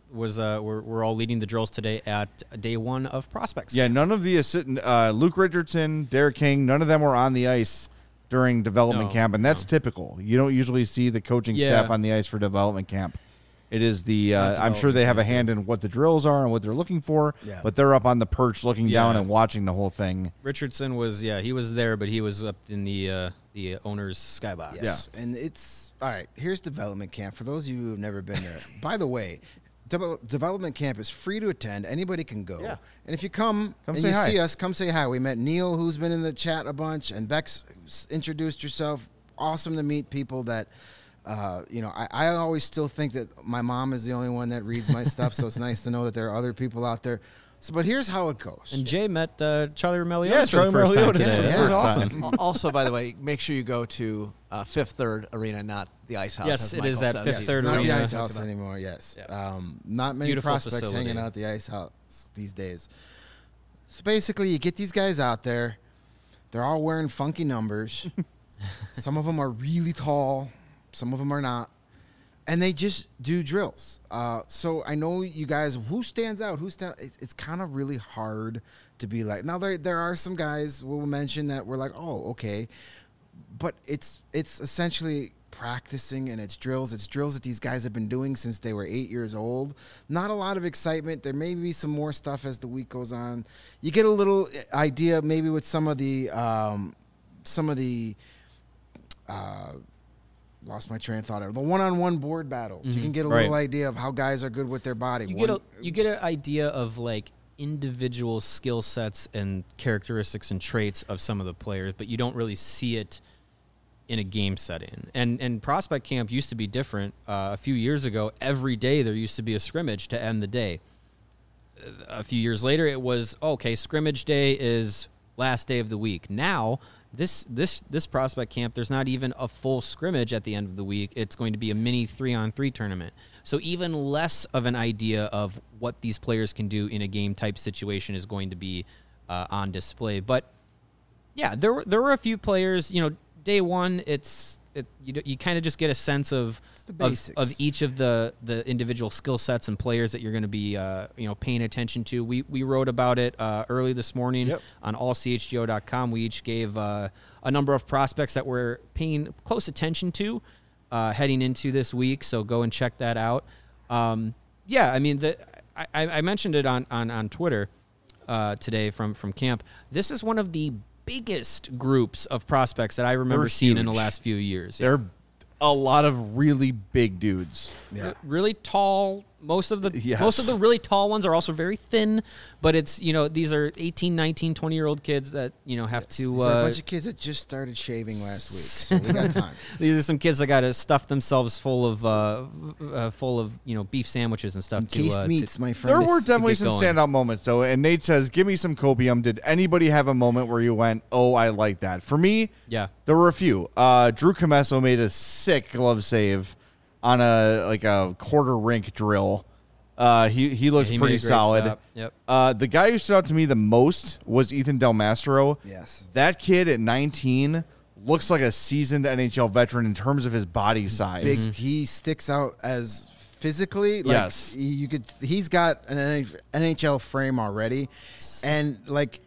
we're all leading the drills today at day 1 of prospects. Yeah, none of the Luke Richardson, Derek King, none of them were on the ice during development camp, and that's typical. You don't usually see the coaching staff on the ice for development camp. It is the I'm sure they have a hand in what the drills are and what they're looking for, but they're up on the perch looking down and watching the whole thing. Richardson was he was there, but he was up in the owner's skybox. Yes, and it's all right. Here's development camp for those of you who have never been there. By the way, development camp is free to attend. Anybody can go. Yeah. And if you come and you see us, come say hi. We met Neil, who's been in the chat a bunch, and Bex introduced herself. Awesome to meet people that. I always still think that my mom is the only one that reads my stuff, so it's nice to know that there are other people out there. So, but here's how it goes. And Jay met Charlie Roumeliotis for the first time today. That was awesome. Also, by the way, make sure you go to Fifth Third Arena, not the Ice House. Yes, it is at Fifth Third Arena. Not the Ice House anymore, yes. Yeah. Not many Beautiful prospects facility. hanging out at the Ice House these days. So basically, you get these guys out there. They're all wearing funky numbers. Some of them are really tall. Some of them are not. And they just do drills. So I know you guys, who stands out? It's kind of really hard to be like. Now, there are some guys we'll mention that we're like, oh, okay. But it's essentially practicing, and it's drills. It's drills that these guys have been doing since they were 8 years old. Not a lot of excitement. There may be some more stuff as the week goes on. You get a little idea maybe with some of the lost my train of thought. The one-on-one board battles. You can get a little idea of how guys are good with their body. You get an idea of like individual skill sets and characteristics and traits of some of the players, but you don't really see it in a game setting. And prospect camp used to be different. A few years ago, every day there used to be a scrimmage to end the day. A few years later, it was, okay, scrimmage day is last day of the week. Now, this prospect camp, there's not even a full scrimmage at the end of the week. It's going to be a mini 3-on-3 tournament. So even less of an idea of what these players can do in a game type situation is going to be on display. But yeah, there were a few players. Day one, you kind of just get a sense of each of the individual skill sets and players that you're going to be paying attention to. We wrote about it early this morning on allchgo.com. We each gave a number of prospects that we're paying close attention to heading into this week. So go and check that out. I mentioned it on Twitter today from camp. This is one of the biggest groups of prospects that I remember seeing in the last few years. They're a lot of really big dudes. Yeah. Really tall. Most of the really tall ones are also very thin, but it's, these are 18, 19, 20-year-old kids that, have to... These are a bunch of kids that just started shaving last week, so we got time. These are some kids that got to stuff themselves full of beef sandwiches and stuff. Encased meats, my friend. There were definitely some standout moments, though, and Nate says, give me some copium. Did anybody have a moment where you went, oh, I like that? For me, there were a few. Drew Comesso made a sick glove save on a quarter rink drill. He looked pretty solid. Yep. The guy who stood out to me the most was Ethan Del Mastro. Yes. That kid at 19 looks like a seasoned NHL veteran in terms of his body size. Big. He sticks out as physically. Yes. He's got an NHL frame already, and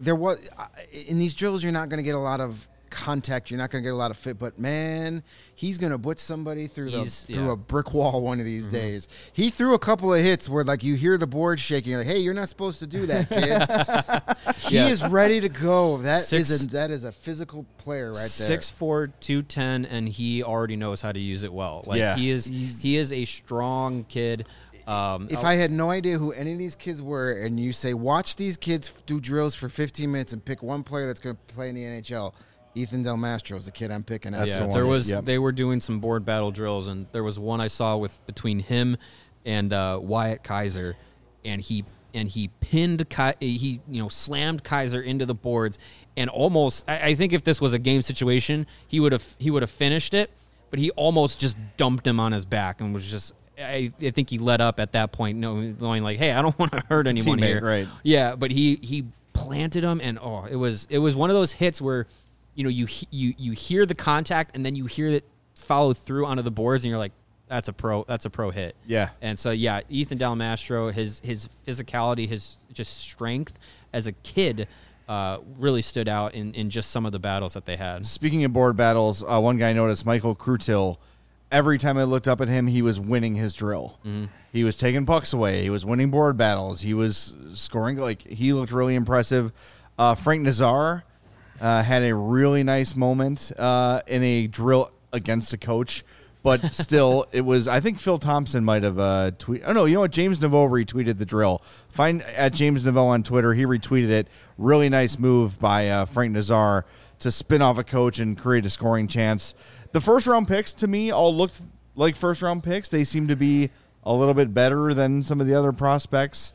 in these drills you're not going to get a lot of contact, you're not going to get a lot of fit, but man, he's going to put somebody through a brick wall one of these days. He threw a couple of hits where you hear the board shaking, you're like, hey, you're not supposed to do that, kid. He is ready to go. That is a physical player right there. 6'4", 210, and he already knows how to use it well. He is a strong kid. If I had no idea who any of these kids were, and you say, watch these kids do drills for 15 minutes and pick one player that's going to play in the NHL, Ethan Del Mastro is the kid I'm picking. They were doing some board battle drills, and there was one I saw between him and Wyatt Kaiser, and he pinned he slammed Kaiser into the boards, and almost I think if this was a game situation, he would have finished it, but he almost just dumped him on his back and was just. I think he let up at that point, knowing like, hey, I don't want to hurt anyone here. Right? Yeah, but he planted him, and it was one of those hits where. You hear the contact and then you hear it follow through onto the boards and you're like, that's a pro hit. Yeah. And so Ethan Dalmastro, his physicality, his just strength as a kid really stood out in just some of the battles that they had. Speaking of board battles, one guy I noticed, Michael Krutil. Every time I looked up at him, he was winning his drill. Mm-hmm. He was taking pucks away. He was winning board battles. He was scoring. He looked really impressive. Frank Nazar had a really nice moment in a drill against a coach. But still, it was. I think Phil Thompson might have tweeted. Oh no, you know what? James Naveau retweeted the drill. Find at James Naveau on Twitter. He retweeted it. Really nice move by Frank Nazar to spin off a coach and create a scoring chance. The first round picks to me all looked like first round picks. They seem to be a little bit better than some of the other prospects.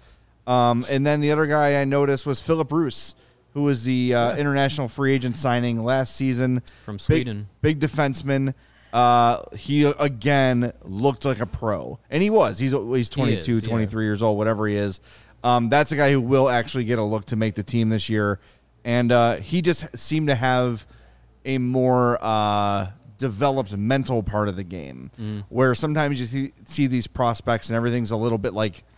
And then the other guy I noticed was Philip Roos, who was the international free agent signing last season from Sweden. Big defenseman. He, again, looked like a pro. And he was. He's 22, 23 years old, whatever he is. That's a guy who will actually get a look to make the team this year. And he just seemed to have a more developed mental part of the game, where sometimes you see these prospects and everything's a little bit,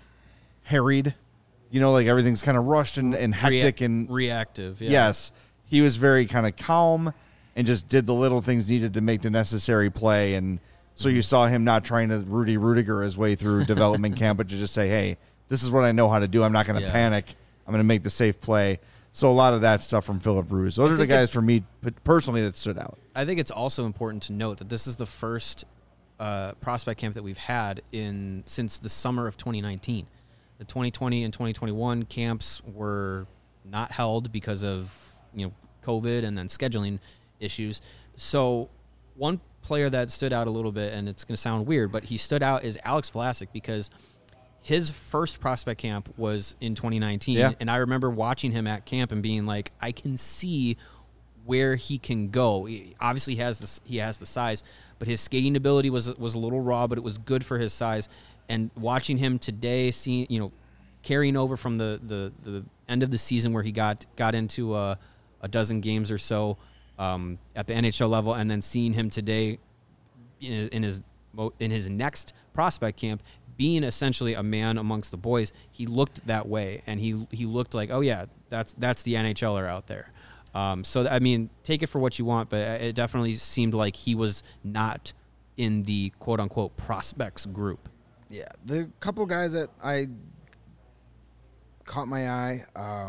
harried. Everything's kind of rushed and hectic and reactive. Yeah. Yes. He was very kind of calm and just did the little things needed to make the necessary play. And so you saw him not trying to Rudy Rudiger his way through development camp, but to just say, hey, this is what I know how to do. I'm not going to panic. I'm going to make the safe play. So a lot of that stuff from Philip Roos. Those are the guys for me personally that stood out. I think it's also important to note that this is the first prospect camp that we've had since the summer of 2019. The 2020 and 2021 camps were not held because of COVID and then scheduling issues. So one player that stood out a little bit, and it's going to sound weird, but he stood out, is Alex Vlasic, because his first prospect camp was in 2019, and I remember watching him at camp and being like, I can see where he can go. Obviously, he has the size, but his skating ability was a little raw, but it was good for his size. And watching him today, carrying over from the end of the season where he got into a dozen games or so at the NHL level, and then seeing him today in his next prospect camp, being essentially a man amongst the boys, he looked that way, and he looked like, oh yeah, that's the NHLer out there. So I mean, take it for what you want, but it definitely seemed like he was not in the quote unquote prospects group. Yeah, the couple guys that I caught my eye,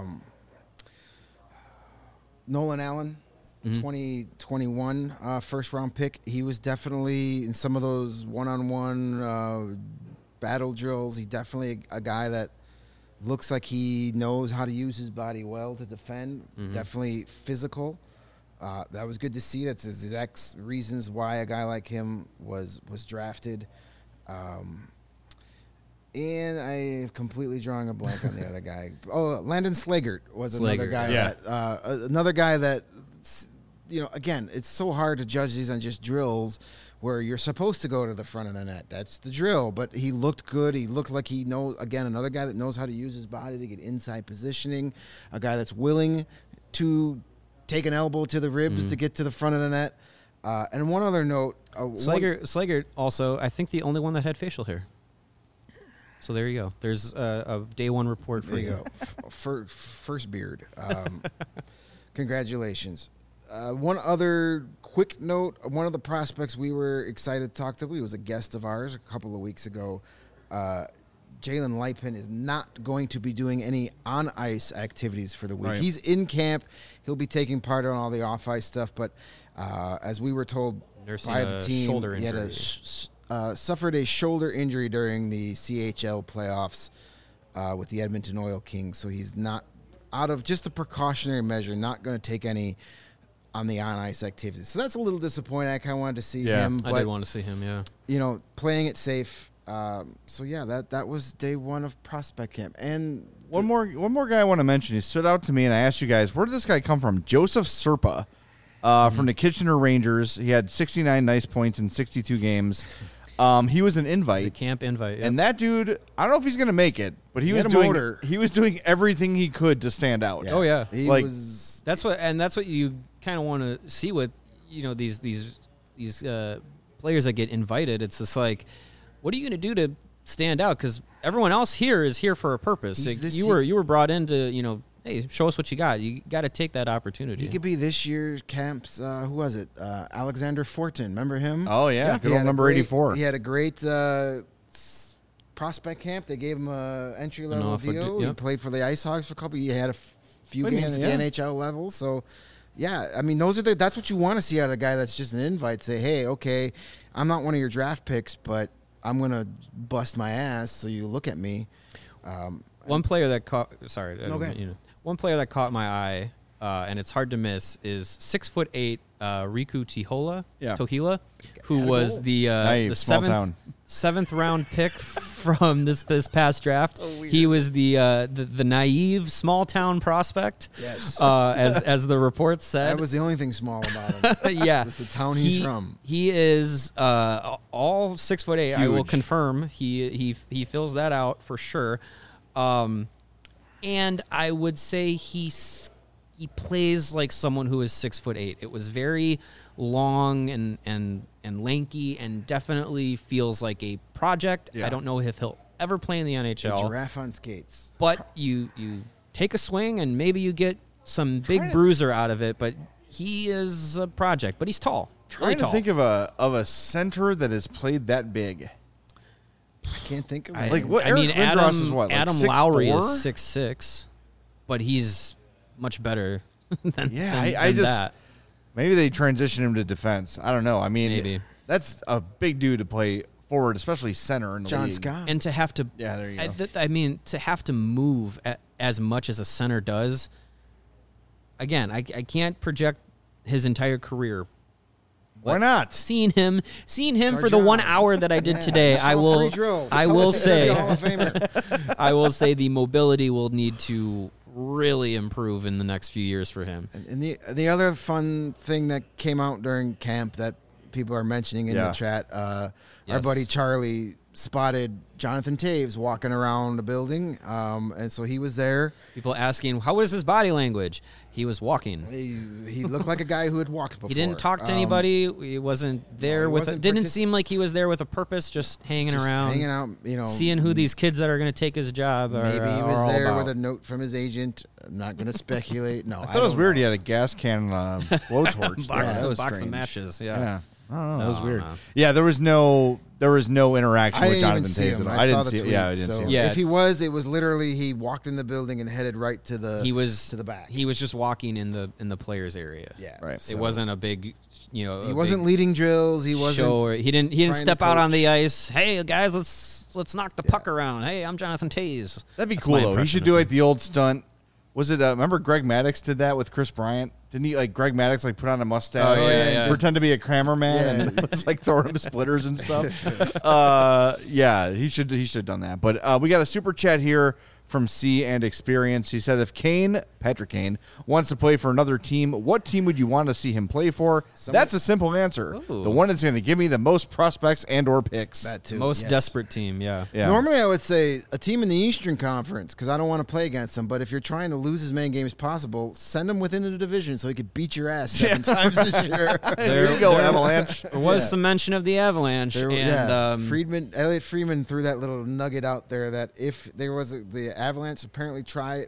Nolan Allen, 2021 first round pick. He was definitely in some of those one-on-one battle drills. He definitely a guy that looks like he knows how to use his body well to defend. Definitely physical. That was good to see. That's the exact reasons why a guy like him was drafted. And I completely drawing a blank on the other guy. Oh, Landon Slaggert was another guy. Another guy that, again, it's so hard to judge these on just drills where you're supposed to go to the front of the net. That's the drill. But he looked good. He looked like he knows, again, another guy that knows how to use his body to get inside positioning, a guy that's willing to take an elbow to the ribs to get to the front of the net. And one other note. Slaggert also, I think, the only one that had facial hair. So there you go. There's a day one report for you. There you go. First beard. Congratulations. One other quick note. One of the prospects we were excited to talk to, he was a guest of ours a couple of weeks ago. Jalen Lipin is not going to be doing any on-ice activities for the week. Right. He's in camp. He'll be taking part on all the off-ice stuff. But as we were told by the team, he had suffered a shoulder injury during the CHL playoffs with the Edmonton Oil Kings. So he's not, out of just a precautionary measure, not going to take any on the on-ice activities. So that's a little disappointing. I kind of wanted to see him. I did want to see him, playing it safe. That was day one of prospect camp. And one more guy I want to mention. He stood out to me, and I asked you guys, where did this guy come from? Joseph Serpa from the Kitchener Rangers. He had 69 nice points in 62 games. He was an invite. He's a camp invite. Yep. And that dude, I don't know if he's going to make it, but he was doing everything he could to stand out. Yeah. Oh yeah. That's what you kind of want to see with, these players that get invited, it's just like, what are you going to do to stand out? Because everyone else here is here for a purpose. Like, you were brought in to, hey, show us what you got. You got to take that opportunity. He could be this year's camp's, who was it? Alexander Fortin. Remember him? Oh, yeah. Good old number 84. He had a great prospect camp. They gave him a entry-level deal. He played for the Ice Hogs for a couple. He had a few games at the NHL level. So, yeah, I mean, that's what you want to see out of a guy that's just an invite. Say, hey, okay, I'm not one of your draft picks, but I'm going to bust my ass so you look at me. One player that caught one player that caught my eye, and it's hard to miss, is 6'8" Riku Tohila, who was the seventh round pick from this past draft. He was the naive small town prospect. Yes, as the report said. That was the only thing small about him. Yeah, it's the town he's from. He is all 6'8". Huge. I will confirm. He fills that out for sure. And I would say he plays like someone who is 6'8". It was very long and lanky, and definitely feels like a project. Yeah. I don't know if he'll ever play in the NHL. A giraffe on skates. But you take a swing and maybe you get some big bruiser out of it. But he is a project. But he's tall. Trying to think of a center that has played that big. I can't think of it. Adam Lowry is 6'6", but he's much better than that. Maybe they transition him to defense. I don't know. I mean, maybe that's a big dude to play forward, especially center in the John league. Scott. And to have to, there you go. I mean, to have to move as much as a center does. Again, I can't project his entire career. Why not? Seeing him for the 1 hour that I did today, I will say I will say the mobility will need to really improve in the next few years for him. And the other fun thing that came out during camp that people are mentioning in the chat, our buddy Charlie spotted Jonathan Toews walking around the building, and so he was there. People asking, how was his body language? He was walking. He looked like a guy who had walked before. He didn't talk to anybody. He wasn't there didn't seem like he was there with a purpose, just hanging around. Hanging out, seeing who these kids that are going to take his job are. Maybe he was there with a note from his agent. I'm not going to speculate. No, I thought it was weird. He had a gas can blowtorch. box of matches. Yeah. I don't know. That was weird. Yeah, there was no interaction with Jonathan Toews. I didn't see it. Yeah, I didn't see it. If he was, it was literally he walked in the building and headed right to the back. He was just walking in the players area. Yeah, right. So it wasn't a big, he wasn't leading drills. He wasn't. He didn't step out on the ice. Hey guys, let's knock the puck around. Hey, I'm Jonathan Toews. That'd be cool though. He should do like the old stunt. Was it? Remember Greg Maddux did that with Chris Bryant? Didn't he? Like Greg Maddux, put on a mustache, pretend to be a Kramer man, and was throwing him splitters and stuff. He should have done that. But we got a super chat here from C and Experience. He said, if Patrick Kane, wants to play for another team, what team would you want to see him play for? That's a simple answer. Ooh. The one that's going to give me the most prospects and or picks. That too. Most desperate team, yeah. Normally I would say a team in the Eastern Conference because I don't want to play against them. But if you're trying to lose as many games as possible, send them within the division so he could beat your ass 7 times this year. There you go, Avalanche. There was some mention of the Avalanche. Elliot Friedman threw that little nugget out there that if there was the Avalanche apparently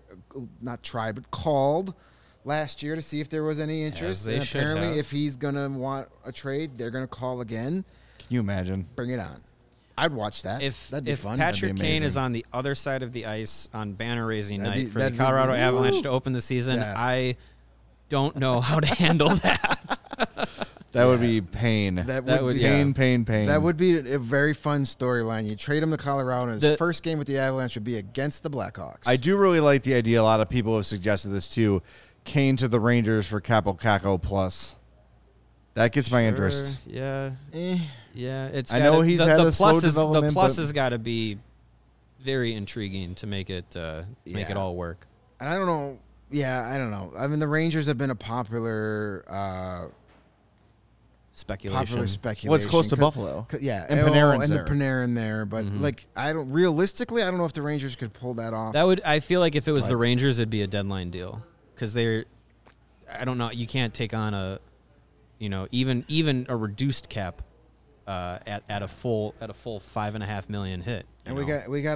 called last year to see if there was any interest. And apparently, if he's going to want a trade, they're going to call again. Can you imagine? Bring it on. I'd watch that. That'd be fun. If Patrick Kane is on the other side of the ice on banner-raising night for the Colorado Avalanche to open the season, I don't know how to handle that. That would be pain. That would be pain. That would be a very fun storyline. You trade him to Colorado, and his first game with the Avalanche would be against the Blackhawks. I do really like the idea. A lot of people have suggested this too. Kane to the Rangers for Capo Caco plus. That gets my interest. Yeah. Yeah. I know he's had a slow development. The plus has got to be very intriguing to make it all work. And I don't know. Yeah, I don't know. I mean, the Rangers have been a popular speculation. What's close to Buffalo? Yeah, and Panarin's and the Panarin there, but I don't know if the Rangers could pull that off. I feel like if it was the Rangers, it'd be a deadline deal because I don't know. You can't take on even a reduced cap at a full $5.5 million hit. And we got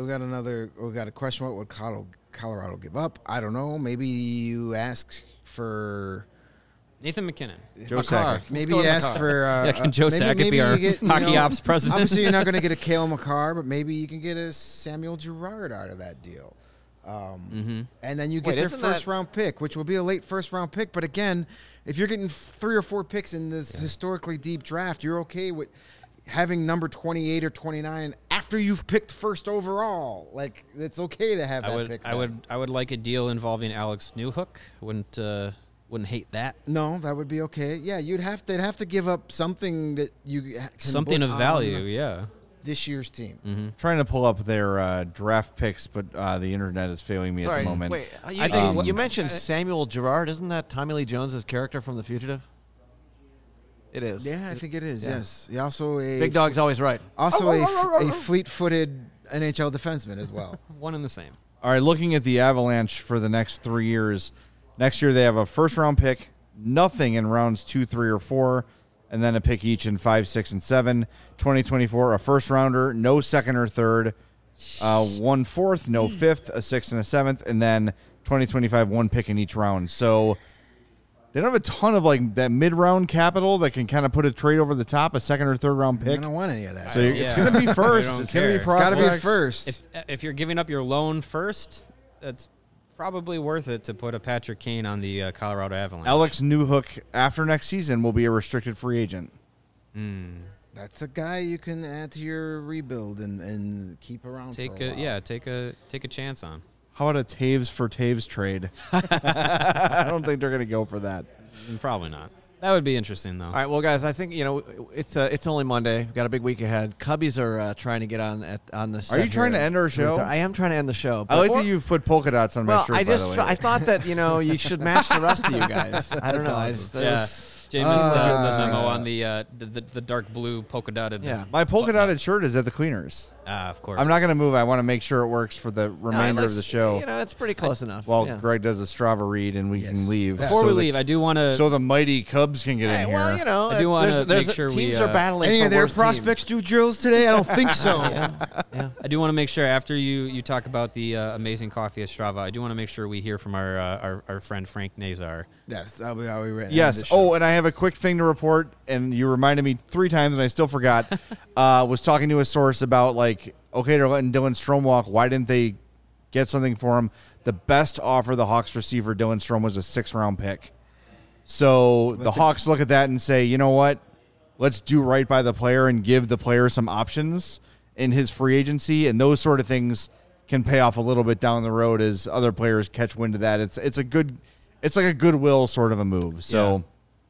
a question. What would Colorado give up? I don't know. Maybe you ask for Nathan McKinnon. Joe Sakic. Maybe you ask for... can Joe Sakic be our hockey ops president? Obviously, you're not going to get a Cale Makar, but maybe you can get a Samuel Girard out of that deal. And then you get their first-round pick, which will be a late first-round pick. But again, if you're getting 3 or 4 picks in this historically deep draft, you're okay with having number 28 or 29 after you've picked first overall. Like, it's okay to have that pick. I would like a deal involving Alex Newhook. Wouldn't hate that. No, that would be okay. Yeah, they'd have to give up something that you can something of value. Yeah, this year's team. Mm-hmm. Trying to pull up their draft picks, but the internet is failing me at the moment. Wait, I think you mentioned Samuel Girard. Isn't that Tommy Lee Jones' character from The Fugitive? It is. Yeah, I think it is. Yeah. Yes. He also Big Dog's always right. Also a fleet-footed NHL defenseman as well. One and the same. All right, looking at the Avalanche for the next 3 years. Next year they have a first-round pick, nothing in rounds 2, 3, or 4, and then a pick each in 5, 6, and 7. 2024, a first-rounder, no second or third, 1 fourth, no fifth, a sixth, and a seventh, and then 2025, 1 pick in each round. So they don't have a ton of like that mid-round capital that can kind of put a trade over the top, a second or third-round pick. I don't want any of that. So it's going to be first. It's going to be prospects. It's got to be first. If you're giving up your loan first, it's probably worth it to put a Patrick Kane on the Colorado Avalanche. Alex Newhook, after next season, will be a restricted free agent. That's a guy you can add to your rebuild and keep around for a while. Take a chance on. How about a Taves for Taves trade? I don't think they're going to go for that. Probably not. That would be interesting, though. All right, well, guys, I think it's only Monday. We've got a big week ahead. Cubbies are trying to get on this. Are you trying to end our show? I am trying to end the show. I like that you've put polka dots on my shirt. By the way. I thought that you should match the rest of you guys. I don't know. Awesome. James the memo on the dark blue polka dotted. Yeah, my polka dotted shirt is at the cleaners. Of course. I'm not going to move. I want to make sure it works for the remainder of the show. It's pretty close enough. While Greg does a Strava read and we can leave. Before we leave, I do want to. So the mighty Cubs can get in here. Well, I do want to make sure teams are battling. Any for of their worse prospects do drills today? I don't think so. Yeah. I do want to make sure after you talk about the amazing coffee at Strava, I do want to make sure we hear from our friend Frank Nazar. Yes, that'll be how we read. Yes. Oh, and I have a quick thing to report, and you reminded me 3 times, and I still forgot. Was talking to a source about okay, they're letting Dylan Strome walk. Why didn't they get something for him? The best offer the Hawks received for Dylan Strome was a 6th-round pick. So the Hawks look at that and say, you know what? Let's do right by the player and give the player some options in his free agency, and those sort of things can pay off a little bit down the road as other players catch wind of that. It's like a goodwill sort of a move. So,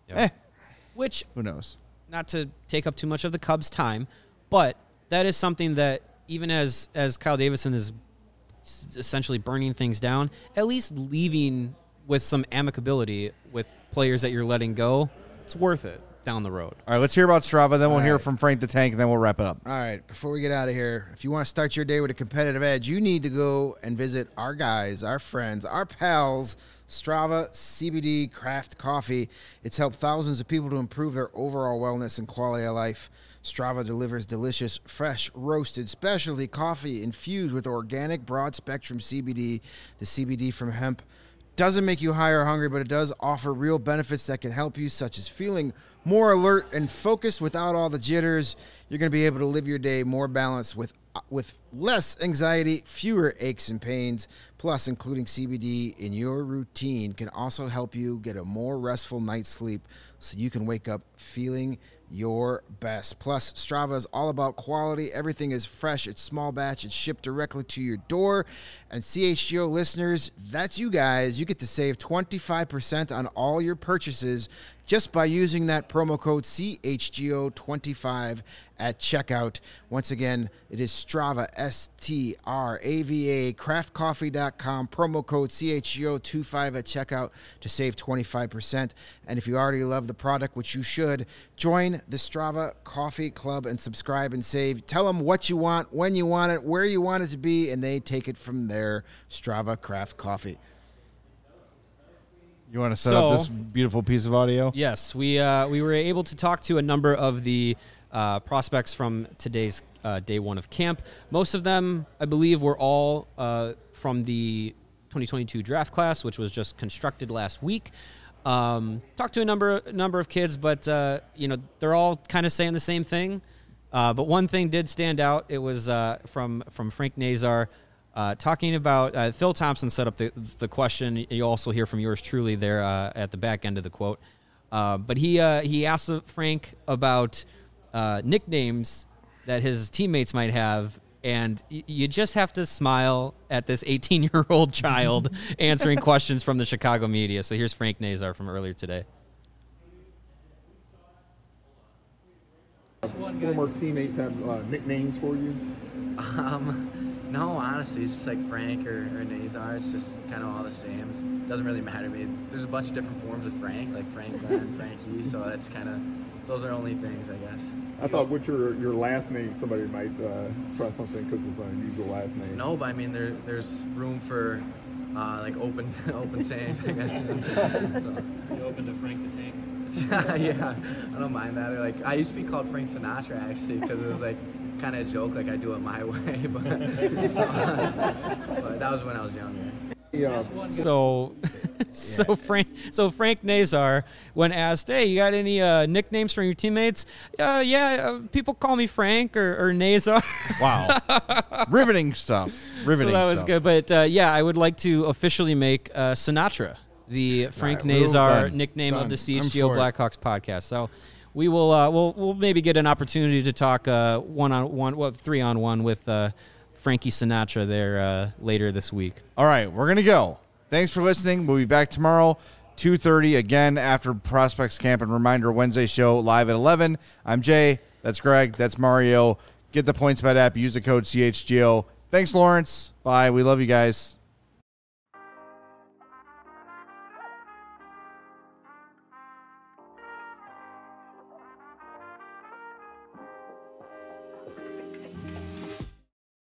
which who knows? Not to take up too much of the Cubs' time, but that is something that even as Kyle Davidson is essentially burning things down, at least leaving with some amicability with players that you're letting go, it's worth it down the road. All right, let's hear about Strava, then we'll hear from Frank the Tank, and then we'll wrap it up. All right, before we get out of here, if you want to start your day with a competitive edge, you need to go and visit our guys, our friends, our pals, Strava CBD Craft Coffee. It's helped thousands of people to improve their overall wellness and quality of life. Strava delivers delicious, fresh, roasted, specialty coffee infused with organic, broad-spectrum CBD. The CBD from hemp doesn't make you high or hungry, but it does offer real benefits that can help you, such as feeling more alert and focused without all the jitters. You're going to be able to live your day more balanced with less anxiety, fewer aches and pains. Plus, including CBD in your routine can also help you get a more restful night's sleep so you can wake up feeling your best. Plus, Strava is all about quality. Everything is fresh. It's small batch. It's shipped directly to your door. And CHGO listeners, that's you guys. You get to save 25% on all your purchases just by using that promo code CHGO25 at checkout. Once again, it is Strava, STRAVA, craftcoffee.com, promo code CHGO25 at checkout to save 25%. And if you already love the product, which you should, join the Strava Coffee Club and subscribe and save. Tell them what you want, when you want it, where you want it to be, and they take it from there. Strava Craft Coffee. You want to set up this beautiful piece of audio? Yes, we were able to talk to a number of the prospects from today's day one of camp. Most of them, I believe, were all from the 2022 draft class, which was just constructed last week. Talked to a number of kids, but they're all kind of saying the same thing. But one thing did stand out. It was from Frank Nazar talking about Phil Thompson set up the question. You also hear from yours truly there at the back end of the quote. But he asked Frank about nicknames that his teammates might have. And you just have to smile at this 18-year-old child answering questions from the Chicago media. So here's Frank Nazar from earlier today. Former teammates have nicknames for you? No, honestly, it's just like Frank or Nazar. It's just kind of all the same. It doesn't really matter to me. There's a bunch of different forms of Frank, like Frank Glenn, Frankie. So that's kind of, those are only things, I guess. I thought with your last name, somebody might try something because it's an unusual last name. No, but I mean, there's room for like open sayings, I guess. So. You open to Frank the Tank? Yeah, I don't mind that. Like, I used to be called Frank Sinatra, actually, because it was like kind of a joke, like I do it my way. But that was when I was younger. So Frank Nazar, when asked, "Hey, you got any nicknames from your teammates?" People call me Frank or Nazar. Wow, riveting stuff. So that was good. But I would like to officially make Sinatra the Frank Nazar nickname of the CHGO Blackhawks podcast. So we will we'll maybe get an opportunity to talk 1-on-1, 3-on-1 with Frankie Sinatra there later this week. All right, we're going to go. Thanks for listening. We'll be back tomorrow, 2:30, again after Prospects Camp. And reminder, Wednesday show live at 11. I'm Jay. That's Greg. That's Mario. Get the PointsBet app. Use the code CHGO. Thanks, Lawrence. Bye. We love you guys.